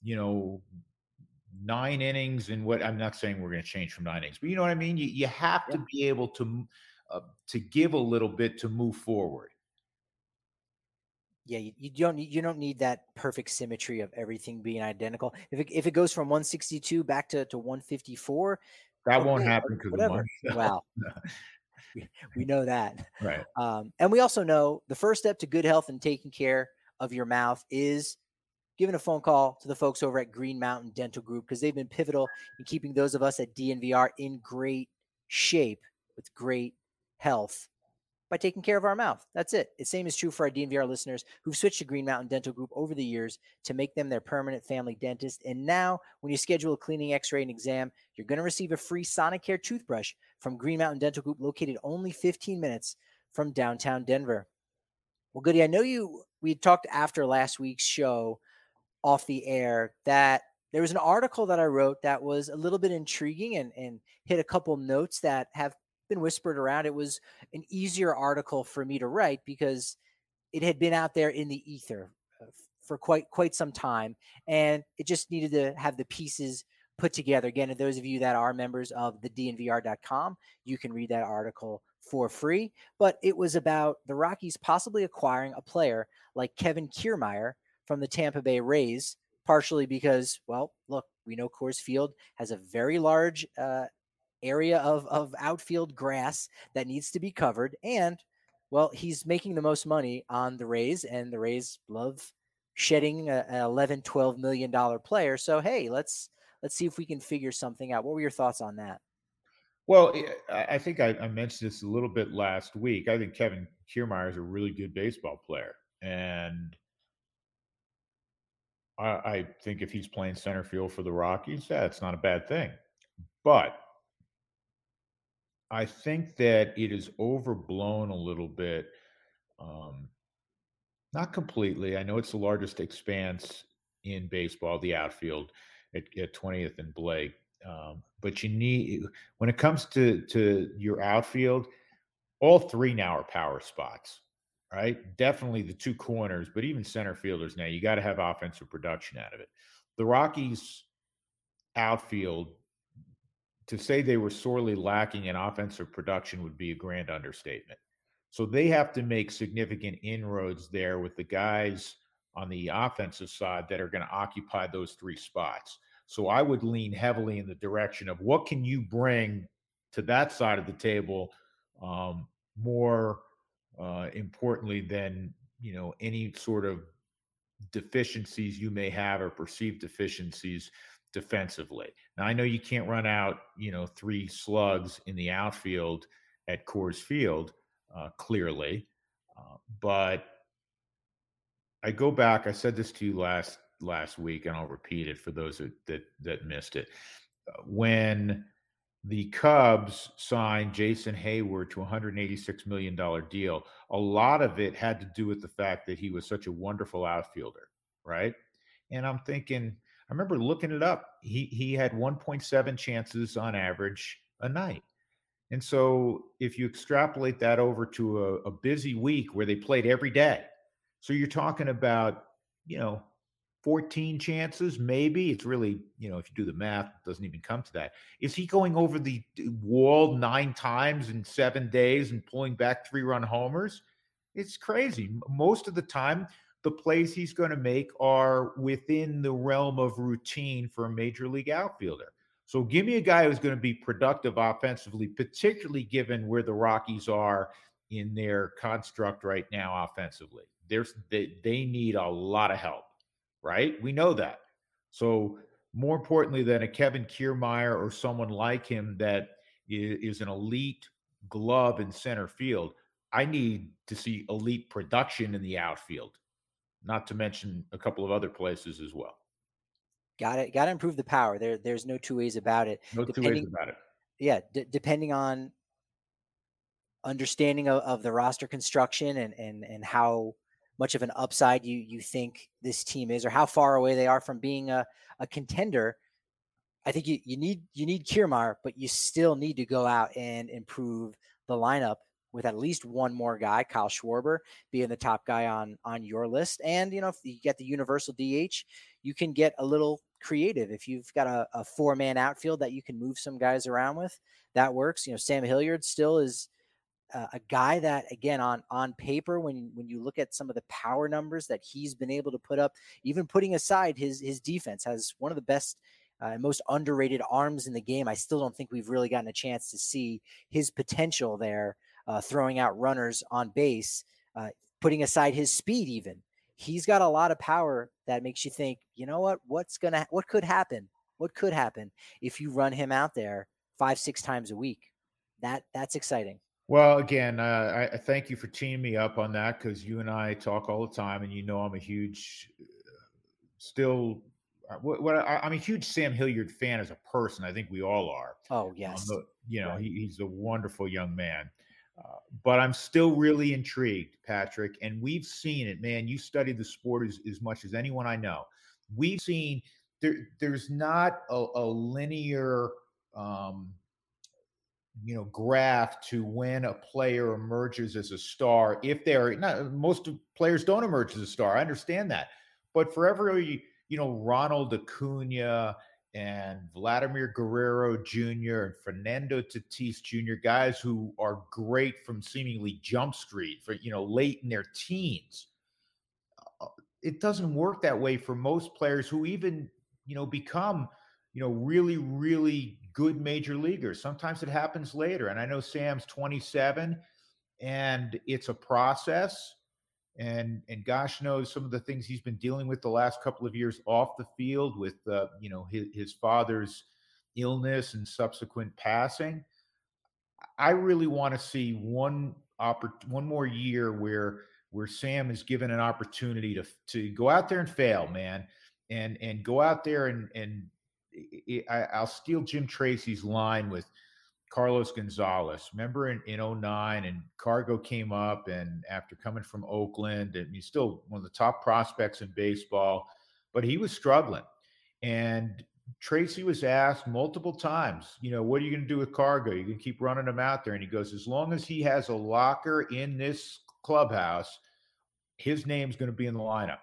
you know, nine innings and what I'm not saying we're going to change from nine innings, but you know what I mean? You, you have Yeah. to be able to, uh, to give a little bit to move forward. Yeah, you, you don't need you don't need that perfect symmetry of everything being identical. If it if it goes from one sixty-two back to, to one fifty-four, That won't okay, happen because of whatever. money. Wow, we, we know that. Right. Um, and we also know the first step to good health and taking care of your mouth is giving a phone call to the folks over at Green Mountain Dental Group, because they've been pivotal in keeping those of us at D N V R in great shape with great health by taking care of our mouth. That's it. The same is true for our D N V R listeners who've switched to Green Mountain Dental Group over the years to make them their permanent family dentist. And now, when you schedule a cleaning, x-ray, and exam, you're going to receive a free Sonicare toothbrush from Green Mountain Dental Group, located only fifteen minutes from downtown Denver. Well, Goody, I know you, we talked after last week's show off the air that there was an article that I wrote that was a little bit intriguing and, and hit a couple notes that have been whispered around. It was an easier article for me to write because it had been out there in the ether uh, for quite quite some time, and it just needed to have the pieces put together. Again, and those of you that are members of the D N V R dot com, you can read that article for free. But it was about the Rockies possibly acquiring a player like Kevin Kiermaier from the Tampa Bay Rays, partially because, well, look, we know Coors Field has a very large uh, area of, of outfield grass that needs to be covered. And, well, he's making the most money on the Rays, and the Rays love shedding a, an eleven, twelve million dollar player. So, hey, let's, let's see if we can figure something out. What were your thoughts on that? Well, I I think I, I mentioned this a little bit last week. I think Kevin Kiermaier is a really good baseball player, and I, I think if he's playing center field for the Rockies, yeah, it's not a bad thing. But I think that it is overblown a little bit. Um, not completely. I know it's the largest expanse in baseball, the outfield at, at twentieth and Blake. Um, but you need, when it comes to to your outfield, all three now are power spots, right? Definitely the two corners, but even center fielders now, you got to have offensive production out of it. The Rockies outfield, to say they were sorely lacking in offensive production would be a grand understatement. So they have to make significant inroads there with the guys on the offensive side that are going to occupy those three spots. So I would lean heavily in the direction of what can you bring to that side of the table, um, more uh, importantly than, you know, any sort of deficiencies you may have or perceived deficiencies defensively. Now I know you can't run out, you know, three slugs in the outfield at Coors Field, uh, clearly, uh, but I go back. I said this to you last last week, and I'll repeat it for those that that, that missed it. Uh, When the Cubs signed Jason Hayward to a one hundred eighty-six million dollars deal, a lot of it had to do with the fact that he was such a wonderful outfielder, right? And I'm thinking, I remember looking it up. He he had one point seven chances on average a night. And so if you extrapolate that over to a, a busy week where they played every day, so you're talking about, you know, fourteen chances, maybe. It's really, you know, if you do the math, it doesn't even come to that. Is he going over the wall nine times in seven days and pulling back three run homers? It's crazy. Most of the time, the plays he's going to make are within the realm of routine for a major league outfielder. So give me a guy who's going to be productive offensively, particularly given where the Rockies are in their construct right now offensively. There's they, they need a lot of help, right? We know that. So more importantly than a Kevin Kiermaier or someone like him that is an elite glove in center field, I need to see elite production in the outfield, not to mention a couple of other places as well. Got it. Got to improve the power. There, there's no two ways about it. No two ways Depending, about it. yeah, d- depending on understanding of, of the roster construction and and and how much of an upside you you think this team is, or how far away they are from being a, a contender. I think you, you need you need Kiermaier, but you still need to go out and improve the lineup with at least one more guy, Kyle Schwarber being the top guy on on your list. And, you know, if you get the universal D H, you can get a little creative. If you've got a, a four man outfield that you can move some guys around with, that works. You know, Sam Hilliard still is uh, a guy that, again, on on paper, when when you look at some of the power numbers that he's been able to put up, even putting aside his his defense, has one of the best uh, and most underrated arms in the game. I still don't think we've really gotten a chance to see his potential there, uh, throwing out runners on base, uh, putting aside his speed. Even he's got a lot of power that makes you think, you know what, what's gonna, what could happen, what could happen if you run him out there five, six times a week. That that's exciting. Well, again, uh, I, I thank you for teaming me up on that, because you and I talk all the time, and you know I'm a huge, uh, still, uh, what, what I, I'm a huge Sam Hilliard fan as a person. I think we all are. Oh Um, yes, but, you know, right. he, he's a wonderful young man. Uh, but I'm still really intrigued, Patrick, and we've seen it, man. You study the sport as, as much as anyone I know. We've seen there. There's not a, a linear. Um, you know, graph to when a player emerges as a star. If they're not, most players don't emerge as a star. I understand that, but for every, you know, Ronald Acuna and Vladimir Guerrero Junior and Fernando Tatis Junior, guys who are great from seemingly jump street for, you know, late in their teens, uh, it doesn't work that way for most players who even, you know, become, you know, really, really good major leaguers. Sometimes it happens later. And I know Sam's twenty-seven, and it's a process. And and gosh knows some of the things he's been dealing with the last couple of years off the field with, uh, you know, his, his father's illness and subsequent passing. I really want to see one oppor- one more year where where Sam is given an opportunity to to go out there and fail, man, and and go out there and and I, I- I'll steal Jim Tracy's line with Carlos Gonzalez. Remember in, in 'oh nine, and Cargo came up, and after coming from Oakland, and he's still one of the top prospects in baseball, but he was struggling. And Tracy was asked multiple times, you know, what are you going to do with Cargo? You can keep running him out there. And he goes, as long as he has a locker in this clubhouse, his name's going to be in the lineup.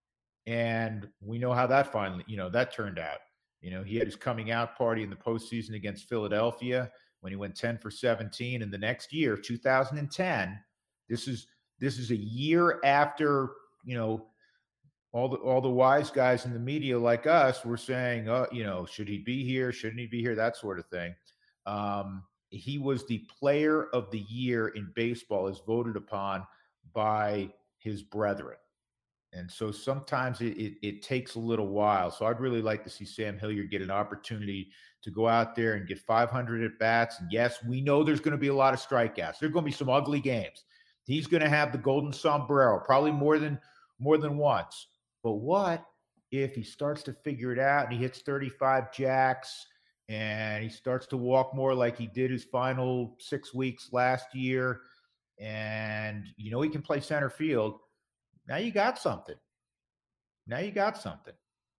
And we know how that finally, you know, that turned out. You know, he had his coming out party in the postseason against Philadelphia when he went ten for seventeen. And the next year, two thousand ten, this is this is a year after, you know, all the all the wise guys in the media like us were saying, oh, you know, should he be here? Shouldn't he be here? That sort of thing. Um, he was the player of the year in baseball, as voted upon by his brethren. And so sometimes it, it, it takes a little while. So I'd really like to see Sam Hilliard get an opportunity to go out there and get five hundred at bats. And yes, we know there's going to be a lot of strikeouts. There are going to be some ugly games. He's going to have the golden sombrero, probably more than more than once. But what if he starts to figure it out and he hits thirty-five jacks and he starts to walk more like he did his final six weeks last year, and you know he can play center field? Now you got something. Now you got something.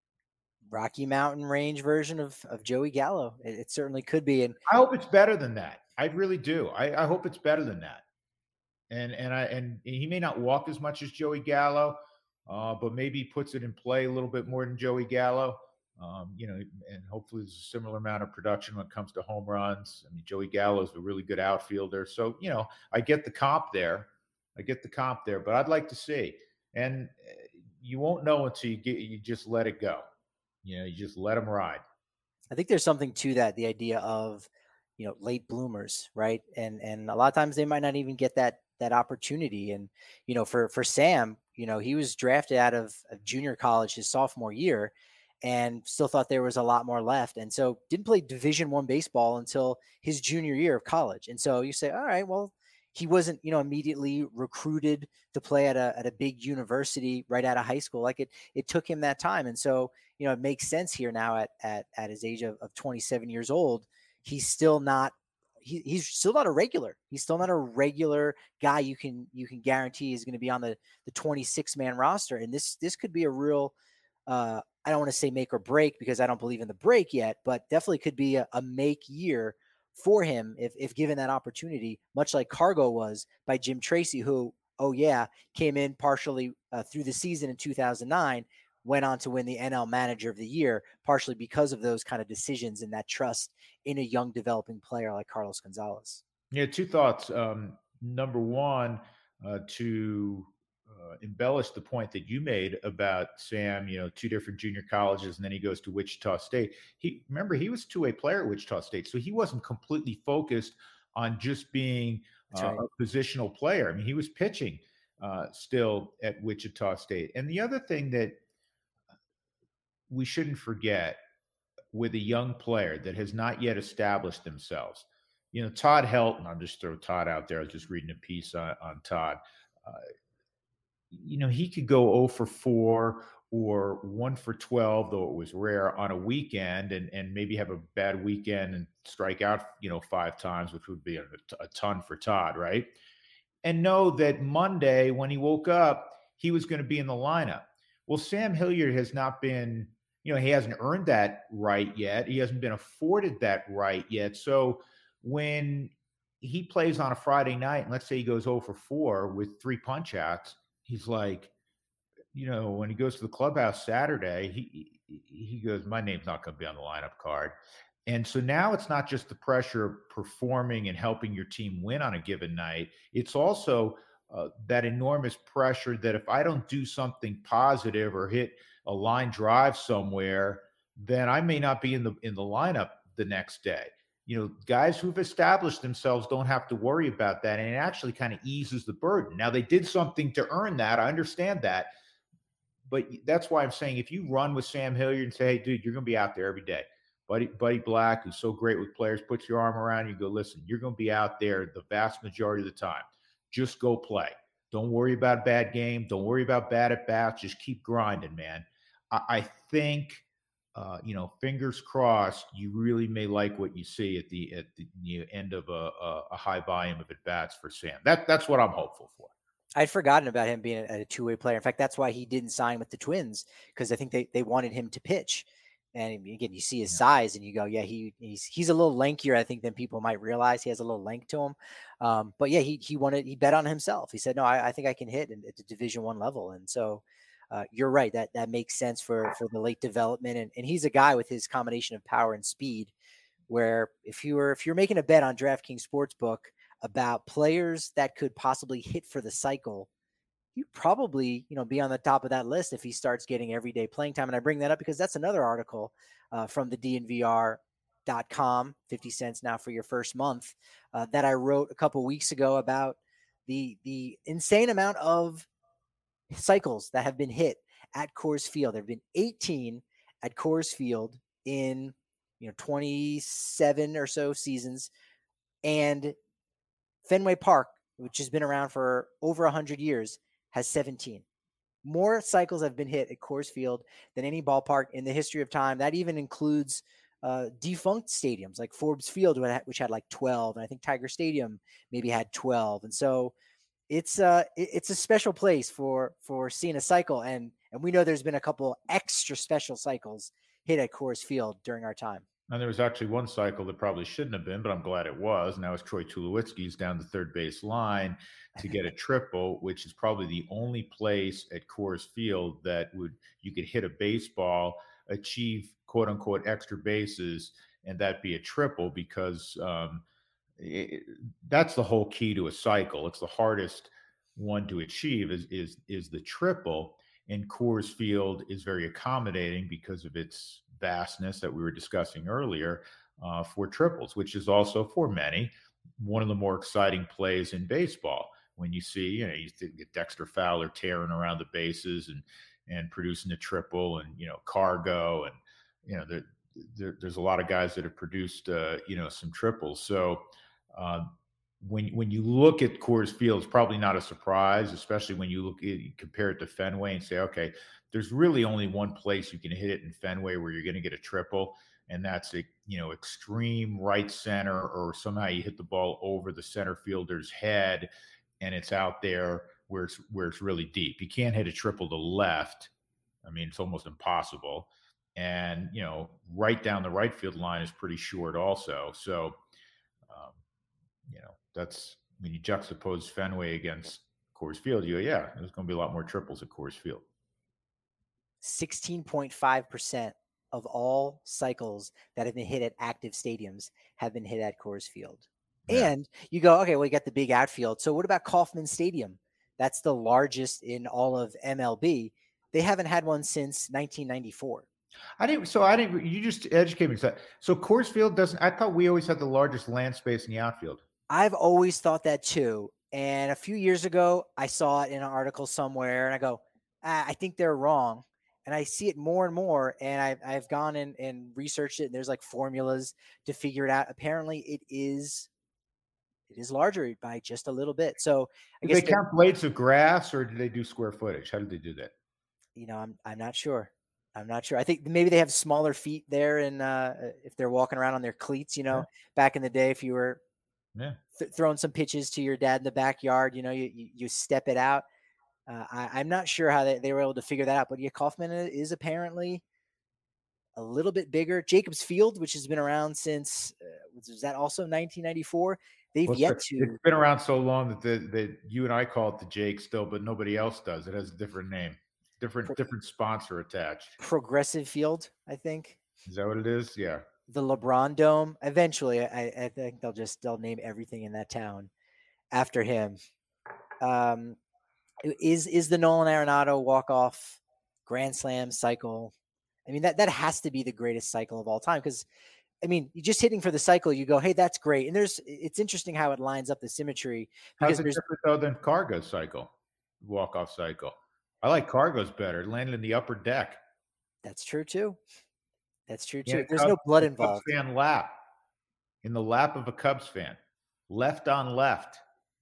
Rocky Mountain Range version of of Joey Gallo. It, it certainly could be. And I hope it's better than that. I really do. I, I hope it's better than that. And and I and he may not walk as much as Joey Gallo, uh, but maybe puts it in play a little bit more than Joey Gallo. Um, you know, and hopefully there's a similar amount of production when it comes to home runs. I mean, Joey Gallo is a really good outfielder, so you know, I get the comp there. I get the comp there, but I'd like to see. And uh, you won't know until you get you just let it go. You know, you just let them ride. I think there's something to that, the idea of, you know, late bloomers, right? And and a lot of times they might not even get that that opportunity. And, you know, for for Sam, you know, he was drafted out of, of junior college his sophomore year and still thought there was a lot more left. And so didn't play Division One baseball until his junior year of college. And so you say, all right, well, he wasn't, you know, immediately recruited to play at a at a big university right out of high school. Like it it took him that time. And so, you know, it makes sense here now at at at his age of, of twenty-seven years old. He's still not he, he's still not a regular. He's still not a regular guy you can you can guarantee is going to be on the the twenty-six man roster. And this this could be a real uh I don't want to say make or break because I don't believe in the break yet, but definitely could be a, a make year for him if, if given that opportunity, much like Cargo was by Jim Tracy, who, oh yeah, came in partially uh, through the season in two thousand nine, went on to win the N L Manager of the Year, partially because of those kind of decisions and that trust in a young developing player like Carlos Gonzalez. Yeah, two thoughts. Um, number one, uh, to uh, embellish the point that you made about Sam, you know, two different junior colleges, and then he goes to Wichita State. He remember he was a two-way player at Wichita State, so he wasn't completely focused on just being uh, right. a positional player. I mean, he was pitching uh, still at Wichita State. And the other thing that we shouldn't forget with a young player that has not yet established themselves. You know, Todd Helton, I'll just throw Todd out there. I was just reading a piece on, on Todd. Uh, you know, he could go zero for four or one for twelve, though it was rare, on a weekend, and, and maybe have a bad weekend and strike out, you know, five times, which would be a, a ton for Todd, right? And know that Monday, when he woke up, he was going to be in the lineup. Well, Sam Hilliard has not been, you know, he hasn't earned that right yet. He hasn't been afforded that right yet. So when he plays on a Friday night, and let's say he goes zero for four with three punch outs, he's like, you know, when he goes to the clubhouse Saturday, he he goes, my name's not going to be on the lineup card. And so now it's not just the pressure of performing and helping your team win on a given night. It's also uh, that enormous pressure that if I don't do something positive or hit a line drive somewhere, then I may not be in the in the lineup the next day. You know, guys who've established themselves don't have to worry about that, and it actually kind of eases the burden. Now, they did something to earn that. I understand that. But that's why I'm saying if you run with Sam Hilliard and say, hey, dude, you're going to be out there every day. Buddy, Buddy Black, who's so great with players, puts your arm around you and go, listen, you're going to be out there the vast majority of the time. Just go play. Don't worry about a bad game. Don't worry about bad at bats. Just keep grinding, man. I, I think, uh, you know, fingers crossed, you really may like what you see at the at the, the end of a, a, a high volume of at bats for Sam. That that's what I'm hopeful for. I'd forgotten about him being a, a two-way player. In fact, that's why he didn't sign with the Twins, because I think they, they wanted him to pitch. And again, you see his yeah. size and you go, yeah, he he's he's a little lankier, I think, than people might realize. He has a little length to him. Um, but yeah, he he wanted he bet on himself. He said, no, I, I think I can hit at the Division One level. And so uh, you're right, that that makes sense for for the late development. And and he's a guy with his combination of power and speed, where if you were if you're making a bet on DraftKings Sportsbook about players that could possibly hit for the cycle, you'd probably, you know, be on the top of that list if he starts getting everyday playing time. And I bring that up because that's another article uh, from the D N V R dot com, fifty cents now for your first month, uh, that I wrote a couple weeks ago about the the insane amount of cycles that have been hit at Coors Field. There have been eighteen at Coors Field in, you know, twenty-seven or so seasons. And Fenway Park, which has been around for over one hundred years, has seventeen. More cycles have been hit at Coors Field than any ballpark in the history of time. That even includes uh, defunct stadiums like Forbes Field, which had like twelve, and I think Tiger Stadium maybe had twelve. And so it's uh it's a special place for for seeing a cycle, and and we know there's been a couple extra special cycles hit at Coors Field during our time. And there was actually one cycle that probably shouldn't have been, but I'm glad it was. And that was Troy Tulowitzki's down the third base line to get a triple, which is probably the only place at Coors Field that would you could hit a baseball, achieve quote unquote extra bases, and that be a triple, because um, it, that's the whole key to a cycle. It's the hardest one to achieve is is is the triple. And Coors Field is very accommodating because of its vastness that we were discussing earlier uh, for triples, which is also for many one of the more exciting plays in baseball. When you see, you know, you get Dexter Fowler tearing around the bases and and producing a triple, and you know, Cargo, and you know, there, there there's a lot of guys that have produced uh, you know, some triples. So uh, when when you look at Coors Field, it's probably not a surprise, especially when you look at, you compare it to Fenway and say, okay, there's really only one place you can hit it in Fenway where you're going to get a triple, and that's a, you know, extreme right center, or somehow you hit the ball over the center fielder's head and it's out there where it's where it's really deep. You can't hit a triple to left. I mean, it's almost impossible. And, you know, right down the right field line is pretty short also. So you know, that's when you juxtapose Fenway against Coors Field, you go, yeah, there's going to be a lot more triples at Coors Field. sixteen point five percent of all cycles that have been hit at active stadiums have been hit at Coors Field. Yeah. And you go, okay, well, you got the big outfield. So what about Kauffman Stadium? That's the largest in all of M L B. They haven't had one since nineteen ninety-four. I didn't. So I didn't. You just educated me. So, so Coors Field doesn't. I thought we always had the largest land space in the outfield. I've always thought that too. And a few years ago, I saw it in an article somewhere, and I go, ah, I think they're wrong. And I see it more and more, and I've I've gone and, and researched it, and there's like formulas to figure it out. Apparently, it is it is larger by just a little bit. So I Did guess they count blades of grass, or did they do square footage? How did they do that? You know, I'm I'm not sure. I'm not sure. I think maybe they have smaller feet there, and uh, if they're walking around on their cleats, you know, Yeah. back in the day, if you were Yeah. th- throwing some pitches to your dad in the backyard, you know, you you, you step it out. Uh, I, I'm not sure how they, they were able to figure that out, but yeah, Kaufman is apparently a little bit bigger. Jacobs Field, which has been around since, uh, was that also nineteen ninety-four? They've Well, yet it's to. been around so long that the, that you and I call it the Jake still, but nobody else does. It has a different name, different Pro- different sponsor attached. Progressive Field, I think. Is that what it is? Yeah. The LeBron Dome. Eventually, I, I think they'll just they'll name everything in that town after him. Um, is is the Nolan Arenado walk off grand slam cycle? I mean that that has to be the greatest cycle of all time because I mean you just hitting for the cycle, you go, hey, that's great, and there's it's interesting how it lines up the symmetry because How's it there's different though than Cargo's cycle, walk off cycle? I like Cargo's better. Landed in the upper deck. that's true too. That's true Yeah, too. There's Cubs, no blood Cubs involved. fan lap in the lap of a Cubs fan, left on left.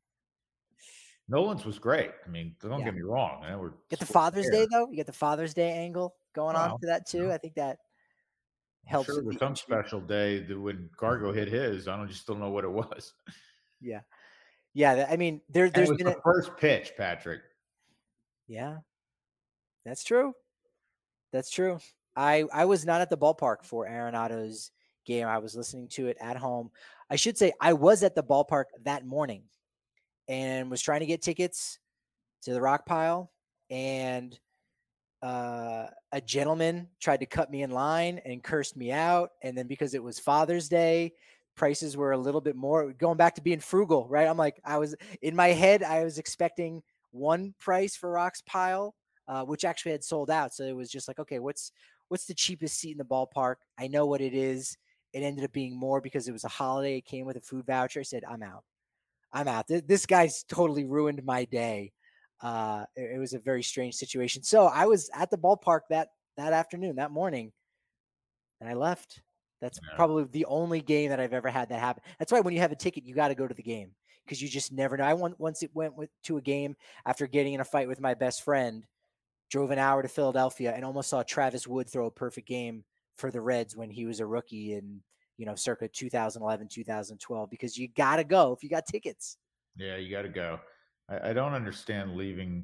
Nolan's was great. I mean, don't Yeah. get me wrong. I know we're Get the split Father's hair. Day though. You get the Father's Day angle going on Well, to that too. you know, I think that I'm helps sure with there's the some intrigue. special day that when Cargo hit his, I don't just don't know what it was. Yeah, yeah. that- I mean, there And it there's was been the a first pitch, Patrick. yeah. That's true. That's true. I I was not at the ballpark for Arenado's game. I was listening to it at home. I should say I was at the ballpark that morning and was trying to get tickets to the Rock Pile, and uh, a gentleman tried to cut me in line and cursed me out. And then because it was Father's Day, prices were a little bit more. Going back to being frugal, right? I'm like, I was in my head, I was expecting one price for Rock's Pile, uh, which actually had sold out. So it was just like, okay, what's what's the cheapest seat in the ballpark? I know what it is. It ended up being more because it was a holiday. It came with a food voucher. I said, I'm out. I'm out. Th- This guy's totally ruined my day. Uh, it, it was a very strange situation. So I was at the ballpark that that afternoon, that morning, and I left. That's Yeah. probably the only game that I've ever had that happen. That's why when you have a ticket, you got to go to the game because you just never know. I went, once it went with, to a game after getting in a fight with my best friend, drove an hour to Philadelphia, and almost saw Travis Wood throw a perfect game for the Reds when he was a rookie in, you know, circa two thousand eleven, two thousand twelve, because you got to go if you got tickets. Yeah, you got to go. I, I don't understand leaving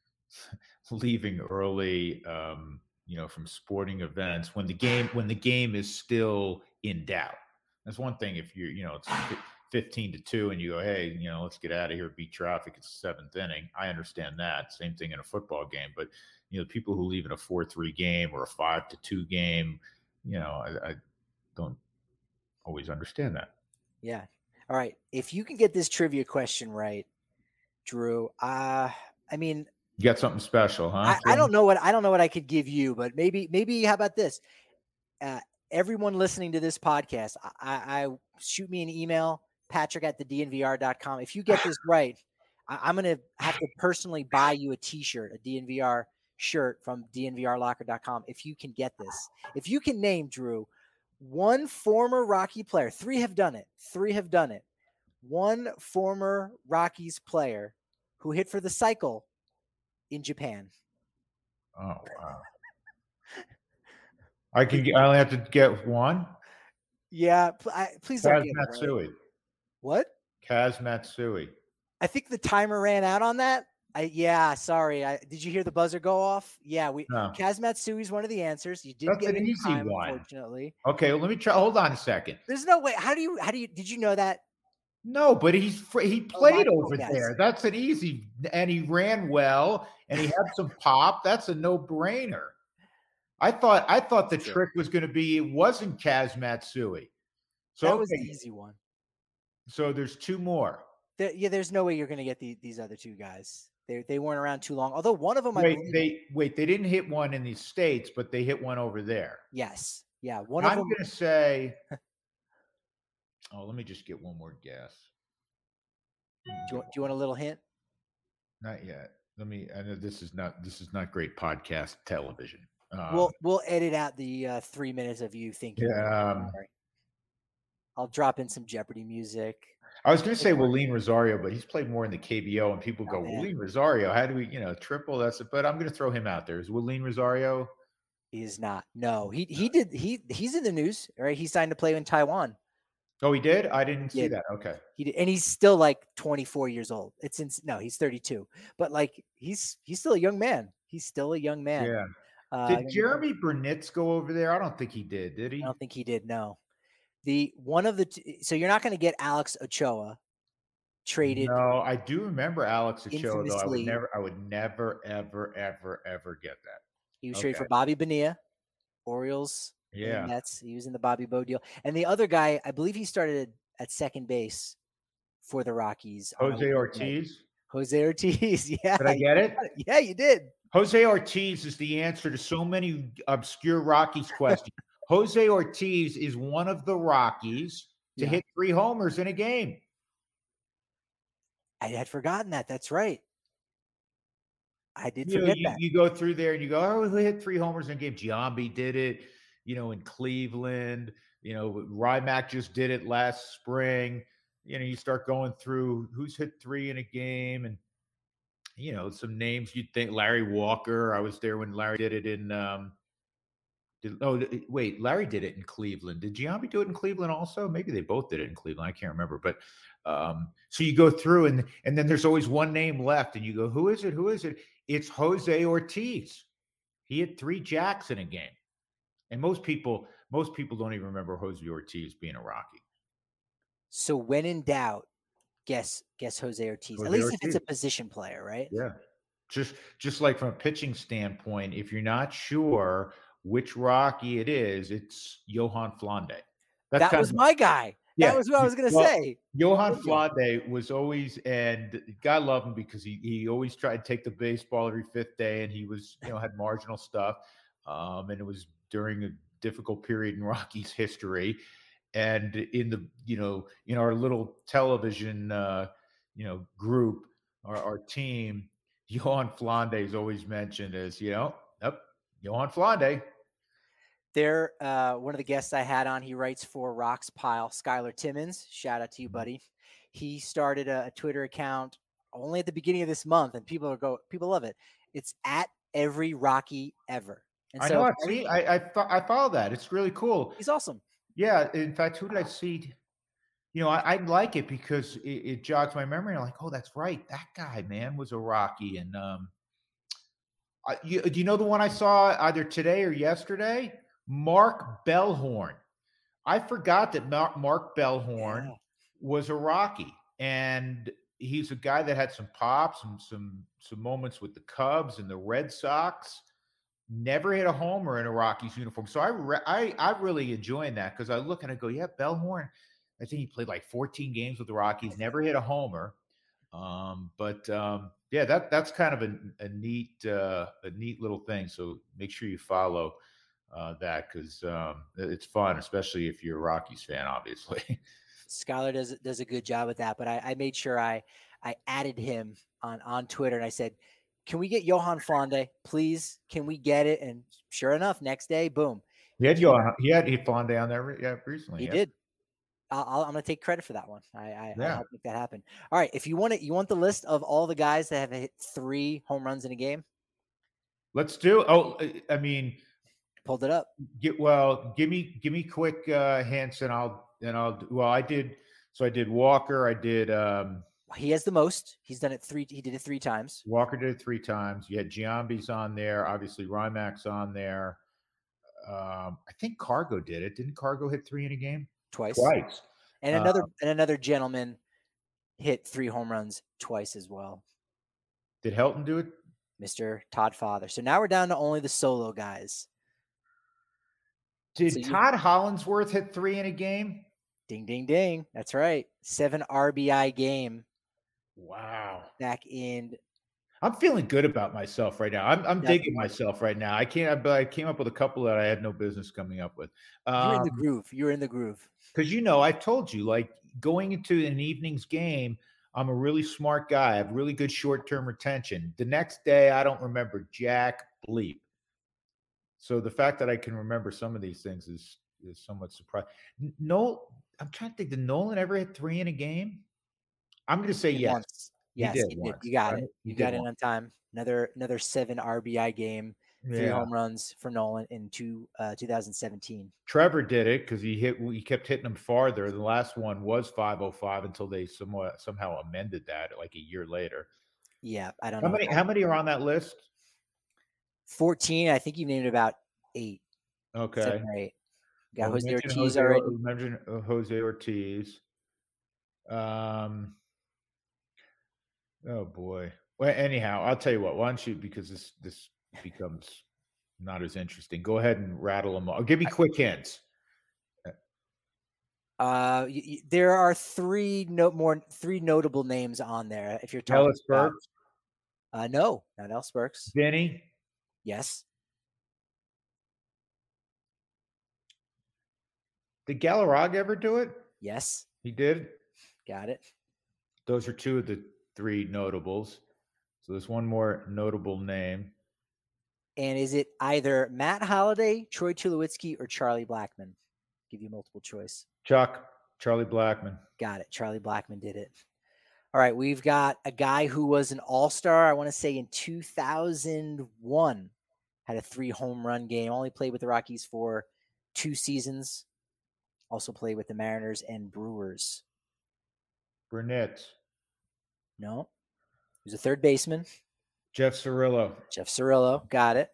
leaving early, um, you know, from sporting events when the game when the game is still in doubt. That's one thing. If you're, you know, it's fifteen to two, and you go, hey, you know, let's get out of here, beat traffic. It's the seventh inning. I understand that. Same thing in a football game, but you know, people who leave in a four three game or a five to two game, you know, I, I don't always understand that. Yeah. All right. If you can get this trivia question right, Drew, uh, I mean, You got something special, huh? I, I don't know what I don't know what I could give you, but maybe maybe how about this? Uh, everyone listening to this podcast, I, I, I shoot me an email, Patrick at the D N V R dot com. If you get this right, I, I'm gonna have to personally buy you a T-shirt, a D N V R shirt from D N V R locker dot com. If you can get this, if you can name, Drew, one former Rocky player, three have done it. Three have done it. One former Rockies player who hit for the cycle in Japan. Oh wow! I can. Get, I only have to get one. Yeah, pl- I, please don't Kaz get it right. Matsui. What? Kaz Matsui. I think the timer ran out on that. I, yeah, sorry. I, did you hear the buzzer go off? Yeah, we No. Kaz Matsui is one of the answers. You didn't That's get an it in easy time, one. unfortunately. Okay, well, let me try. Hold on a second. There's no way. How do you? How do you? Did you know that? No, but he's fr he Oh, my played fault, over guys. there. That's an easy and he ran well, and he had some pop. That's a no-brainer. I thought I thought It's the true. trick was gonna be it wasn't Kaz Matsui. So, That was the okay, easy one. so there's two more. There, yeah, there's no way you're going to get the, these other two guys. They they weren't around too long. Although one of them, I Wait, believe, they wait, they didn't hit one in the States, but they hit one over there. yes, yeah, one of I'm them. gonna say oh, let me just get one more guess. Do you, want- do you want a little hint? Not yet. Let me I know this is not this is not great podcast television. Um, We'll we'll edit out the uh, three minutes of you thinking. yeah, Don't um, worry. I'll drop in some Jeopardy music. I was gonna say Willeen Rosario, but he's played more in the K B O, and people Oh, go, man. Willeen Rosario, how do we, you know, triple? That's it. But I'm gonna throw him out there. Is Willeen Rosario? He is not. No, he he did he he's in the news, right? He signed to play in Taiwan. Oh, he did? I didn't see did. that. Okay. He did, and he's still like twenty-four years old. It's in, no, he's thirty-two, but like he's he's still a young man. He's still a young man. Yeah. Uh, Did Jeremy Burnitz go over there? I don't think he did. Did I he? don't think he did. No, the one of the t- so you're not going to get Alex Ochoa traded No, I do remember Alex Ochoa, though. I would infamously. never, I would never, ever, ever, ever get that. He was Okay. traded for Bobby Bonilla, Orioles, Yeah. and Mets. He was in the Bobby Bo deal, and the other guy, I believe he started at second base for the Rockies. on a Jose weeknight. Ortiz. Jose Ortiz. Yeah. Did I you get it? got it. Yeah, you did. Jose Ortiz is the answer to so many obscure Rockies questions. Jose Ortiz is one of the Rockies to Yeah. hit three homers in a game. I had forgotten that. That's right. I did You know, forget you, that. you go through there and you go, oh, who hit three homers in a game? Giambi did it, you know, in Cleveland. You know, Rymack just did it last spring. You know, you start going through who's hit three in a game, and you know, some names you'd think Larry Walker. I was there when Larry did it in um did, oh wait, Larry did it in Cleveland. Did Giambi do it in Cleveland also? Maybe they both did it in Cleveland. I can't remember. But um, so you go through and and then there's always one name left, and you go, who is it? Who is it? It's Jose Ortiz. He hit three jacks in a game. And most people, most people don't even remember Jose Ortiz being a Rocky. So when in doubt, guess guess Jose Ortiz. Jose At least Ortiz. if it's a position player, right? Yeah. Just just like from a pitching standpoint, if you're not sure which Rocky it is, it's Johan Flande. That's That kind was of, my guy. yeah. That was what I was going to Well, say. Johan Bingo. Flande was always, and God love him because he he always tried to take the baseball every fifth day, and he was, you know, had marginal stuff, um, and it was during a difficult period in Rocky's history, and in the, you know, in our little television, uh, you know, group, our, our team, Johan Flande is always mentioned as, you know, yep, Johan Flande. There, uh, one of the guests I had on, he writes for Rocks Pile, Skylar Timmons. Shout out to you, buddy. He started a, a Twitter account only at the beginning of this month, and people are go, people love it. It's at every Rocky ever. And I so know. I every, see. I I, fo- I follow that. It's really cool. he's awesome. Yeah. In fact, who did I see? You know, I, I like it because it, it jogs my memory. I'm like, oh, that's right. That guy, man, was a Rocky. And um, I, you, do you know the one I saw either today or yesterday? Mark Bellhorn. I forgot that Mark, Mark Bellhorn Yeah. was a Rocky, and he's a guy that had some pops and some some moments with the Cubs and the Red Sox. Never hit a homer in a Rockies uniform. So I re- I I really enjoying that because I look and I go, yeah, Bellhorn. I think he played like fourteen games with the Rockies, never hit a homer. Um, but um, yeah, that that's kind of a, a neat uh, a neat little thing. So make sure you follow uh, that because um, it's fun, especially if you're a Rockies fan, obviously. Skylar does does a good job with that, but I, I made sure I I added him on on Twitter, and I said, "Can we get Johan Flande, please? Can we get it?" And sure enough, next day, boom, He had Johan, he had Flande on there re- yeah, recently. he yeah. did. I'll, I'll, I'm going to take credit for that one. I, I, I Yeah. helped make that happen. All right, if you want it, you want the list of all the guys that have hit three home runs in a game. Let's do. Oh, I mean, Pulled it up. get well. Give me give me quick uh, hints, and I'll and I'll. Well, I did. So I did Walker. I did. Um, He has the most. He's done it three. He did it three times. Walker did it three times. You had Giambi's on there. Obviously, Rymack's on there. Um, I think Cargo did it. Didn't Cargo hit three in a game? Twice. Twice. And Uh, another and another gentleman hit three home runs twice as well. Did Helton do it? Mister Todd Father. So now we're down to only the solo guys. Did So you- Todd Hollinsworth hit three in a game? Ding, ding, ding. That's right. Seven R B I game Wow. back in. I'm feeling good about myself right now. I'm, I'm digging myself right now. I can't, but I came up with a couple that I had no business coming up with. Um, You're in the groove. You're in the groove. Because, you know, I told you, like going into an evening's game, I'm a really smart guy. I have really good short-term retention. The next day, I don't remember jack bleep. So the fact that I can remember some of these things is is somewhat surprising. No, I'm trying to think. Did Nolan ever hit three in a game? I'm going to say yes. Once. Yes, he did. you, did. Once, you got right? it. He You did got it once. on time. Another another seven R B I game. Three Yeah. home runs for Nolan in two uh, two thousand seventeen. Trevor did it because he hit. He kept hitting them farther. The last one was five oh five until they somewhat somehow amended that like a year later. Yeah, I don't How know. many? How many are on that list? fourteen. I think you named about eight. Okay. Seven or eight. Got Well, Jose Ortiz Jose, already. Mention Jose Ortiz. Um. Oh boy. Well, anyhow, I'll tell you what. Why don't you? Because this this becomes not as interesting. Go ahead and rattle them all. Give me quick hints. Uh, y- y- there are three no more three notable names on there. If you're talking Ellis about, Burks, uh, no, not Ellis Burks. Vinny. Yes, Did Galarraga ever do it? yes, He did. got it. Those are two of the three notables. So there's one more notable name. And is it either Matt Holliday, Troy Tulowitzki, or Charlie Blackmon? Give you multiple choice. Chuck, Charlie Blackmon. Got it. Charlie Blackmon did it. All right, we've got a guy who was an all-star, I want to say in two thousand one, had a three home run game, only played with the Rockies for two seasons, also played with the Mariners and Brewers. Burnett. No, he was a third baseman. Jeff Cirillo. Jeff Cirillo, got it.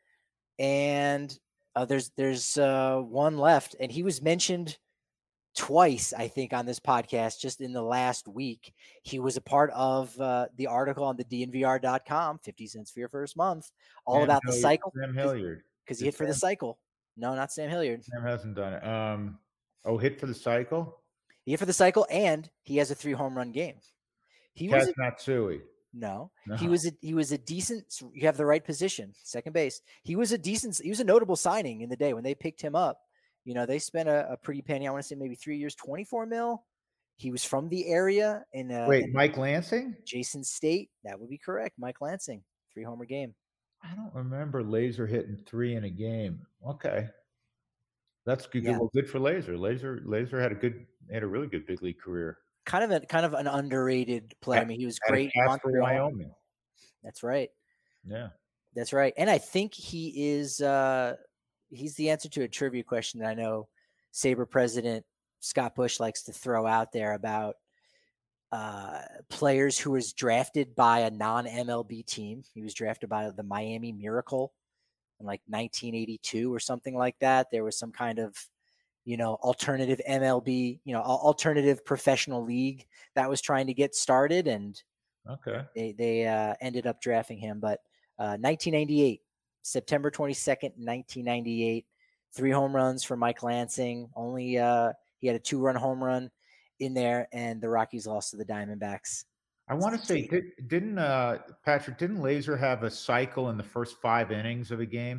And uh, there's there's uh, one left, and he was mentioned twice, I think, on this podcast just in the last week. He was a part of uh, the article on the D N V R dot com, fifty cents for your first month, all Sam about Hilliard, the cycle. Sam Hilliard. Because he hit for the cycle. No, not Sam Hilliard. Sam hasn't done it. Um, oh, hit for the cycle? He hit for the cycle, and he has a three home run game. He Kaz was a, Matsui. no, No. he was a, he was a decent. You have the right position, second base. He was a decent. He was a notable signing in the day when they picked him up. You know, they spent a, a pretty penny. I want to say maybe three years, twenty-four mil. He was from the area in uh, Wait, in Mike Lansing? Jason State. That would be correct. Mike Lansing, three homer game. I don't remember Laser hitting three in a game. Okay, that's good. Yeah. Well, good for Laser. Laser, Laser had a good, had a really good big league career. Kind of a kind of an underrated player. I mean, he was Had a great. cast for Montreal. Wyoming. That's right. Yeah. That's right. And I think he is uh he's the answer to a trivia question that I know Sabre president Scott Bush likes to throw out there about uh players who was drafted by a non-M L B team. He was drafted by the Miami Miracle in like nineteen eighty-two or something like that. There was some kind of, you know, alternative M L B, you know, alternative professional league that was trying to get started, and Okay. they they uh, ended up drafting him. But uh, nineteen ninety-eight, September twenty-second, nineteen ninety-eight, three home runs for Mike Lansing. Only uh, he had a two-run home run in there, and the Rockies lost to the Diamondbacks. I want to say, did, didn't uh, Patrick? Didn't Laser have a cycle in the first five innings of a game?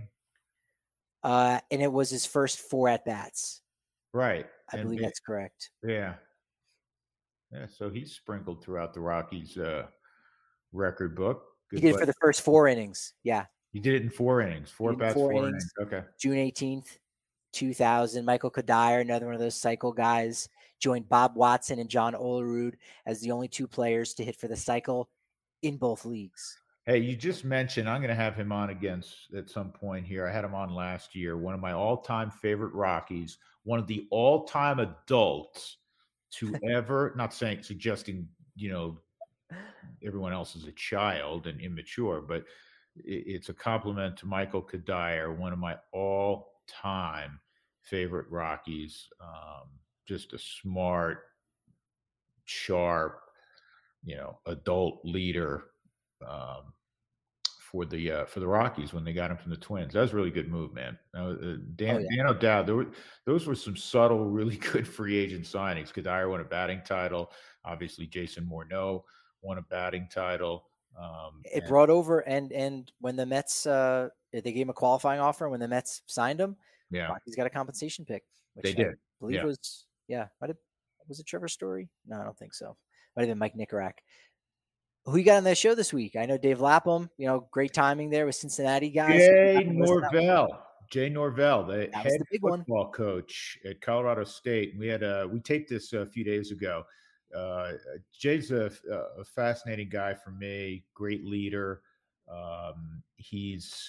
Uh, and it was his first four at bats. Right. I and believe it, that's correct. Yeah. Yeah. So he's sprinkled throughout the Rockies uh, record book. Good he did it for the first four innings. Yeah. He did it in four innings, four bats, four, four innings. innings. Okay. June eighteenth, two thousand. Michael Kadire, another one of those cycle guys, joined Bob Watson and John Olerud as the only two players to hit for the cycle in both leagues. Hey, you just mentioned, I'm going to have him on again at some point here. I had him on last year. One of my all-time favorite Rockies, one of the all-time adults to ever, not saying, suggesting, you know, everyone else is a child and immature, but it's a compliment to Michael Kadire, one of my all-time favorite Rockies. Um, just a smart, sharp, you know, adult leader um, for the uh, for the Rockies when they got him from the Twins. That was a really good move, man. Uh, uh, Oh Dan yeah. Dan O'Dowd, there were, those were some subtle, really good free agent signings. Kadire won a batting title. Obviously, Jason Morneau won a batting title. Um, It and brought over and and when the Mets uh they gave him a qualifying offer, when the Mets signed him, yeah, Rockies got a compensation pick, they which I did. believe Yeah. was yeah, might have was it Trevor Story? No, I don't think so. Might have been Mike Nicorak. Who you got on the show this week? I know Dave Lapham, you know, great timing there with Cincinnati guys. Who you Jay got on the list of that one? Norvell. Jay Norvell, the That was head the big one. football coach at Colorado State. We had a we taped this a few days ago. Uh, Jay's a, a fascinating guy for me. Great leader. Um, he's.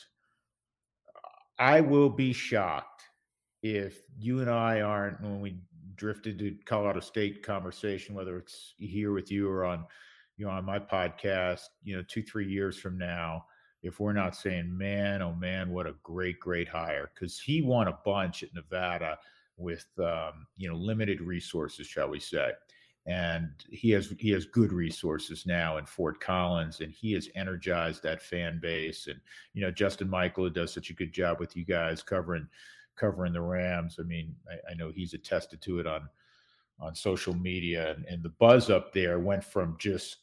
I will be shocked if you and I aren't when we drifted to Colorado State conversation, whether it's here with you or on, you know, on my podcast, you know, two three years from now, if we're not saying, man, oh man, what a great great hire, because he won a bunch at Nevada with um, you know limited resources, shall we say. And he has he has good resources now in Fort Collins, and he has energized that fan base. And you know, Justin Michael, who does such a good job with you guys covering covering the Rams. I mean, I, I know he's attested to it on on social media, and, and the buzz up there went from just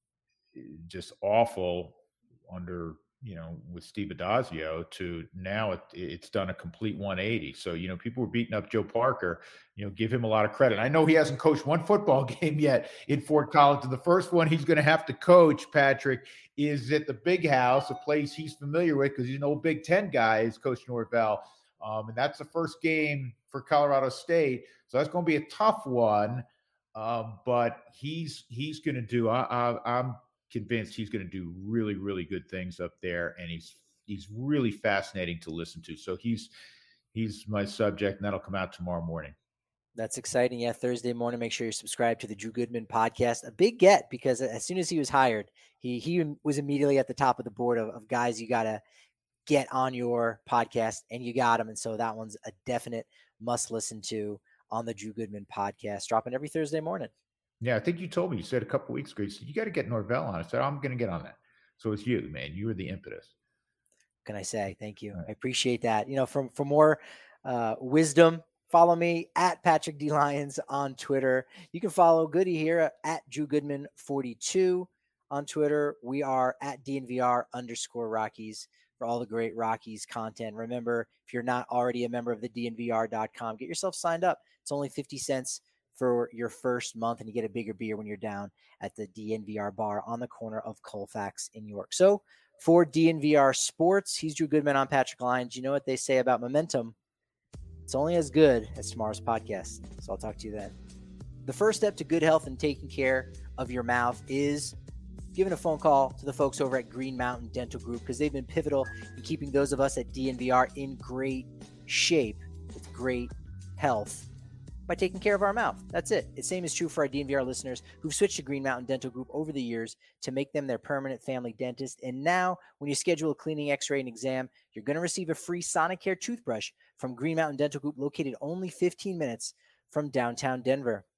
just awful under you know with Steve Adazio to now it, it's done a complete one eighty. So you know people were beating up Joe Parker. You know, give him a lot of credit. I know he hasn't coached one football game yet in Fort Collins, and the first one he's going to have to coach, Patrick, is at the Big House, a place he's familiar with because he's an old Big Ten guy, is Coach Norvell. Um, and that's the first game for Colorado State. So that's going to be a tough one. Um, but he's he's going to do. I, I, I'm convinced he's going to do really really good things up there, and he's he's really fascinating to listen to. So he's he's my subject, and that'll come out tomorrow morning. That's exciting. Yeah, Thursday morning. Make sure you subscribe to the Drew Goodman podcast. A big get because as soon as he was hired, he he was immediately at the top of the board of, of guys you got to get on your podcast, and you got him. And so that one's a definite must listen to on the Drew Goodman podcast, dropping every Thursday morning. Yeah, I think you told me, you said a couple weeks ago, you said, you got to get Norvell on. I said, I'm going to get on that. So it's you, man. You were the impetus. Can I say thank you? Right. I appreciate that. You know, from for more uh, wisdom, follow me at Patrick D Lyons on Twitter. You can follow Goody here at Drew Goodman forty-two on Twitter. We are at D N V R underscore Rockies for all the great Rockies content. Remember, if you're not already a member of the D N V R dot com, get yourself signed up. It's only fifty cents for your first month, and you get a bigger beer when you're down at the D N V R bar on the corner of Colfax in York. So for D N V R Sports, he's Drew Goodman. I'm Patrick Lyons. You know what they say about momentum? It's only as good as tomorrow's podcast. So I'll talk to you then. The first step to good health and taking care of your mouth is giving a phone call to the folks over at Green Mountain Dental Group, because they've been pivotal in keeping those of us at D N V R in great shape with great health by taking care of our mouth. That's it. The same is true for our D N V R listeners who've switched to Green Mountain Dental Group over the years to make them their permanent family dentist. And now when you schedule a cleaning, x-ray, and exam, you're going to receive a free Sonicare toothbrush from Green Mountain Dental Group, located only fifteen minutes from downtown Denver.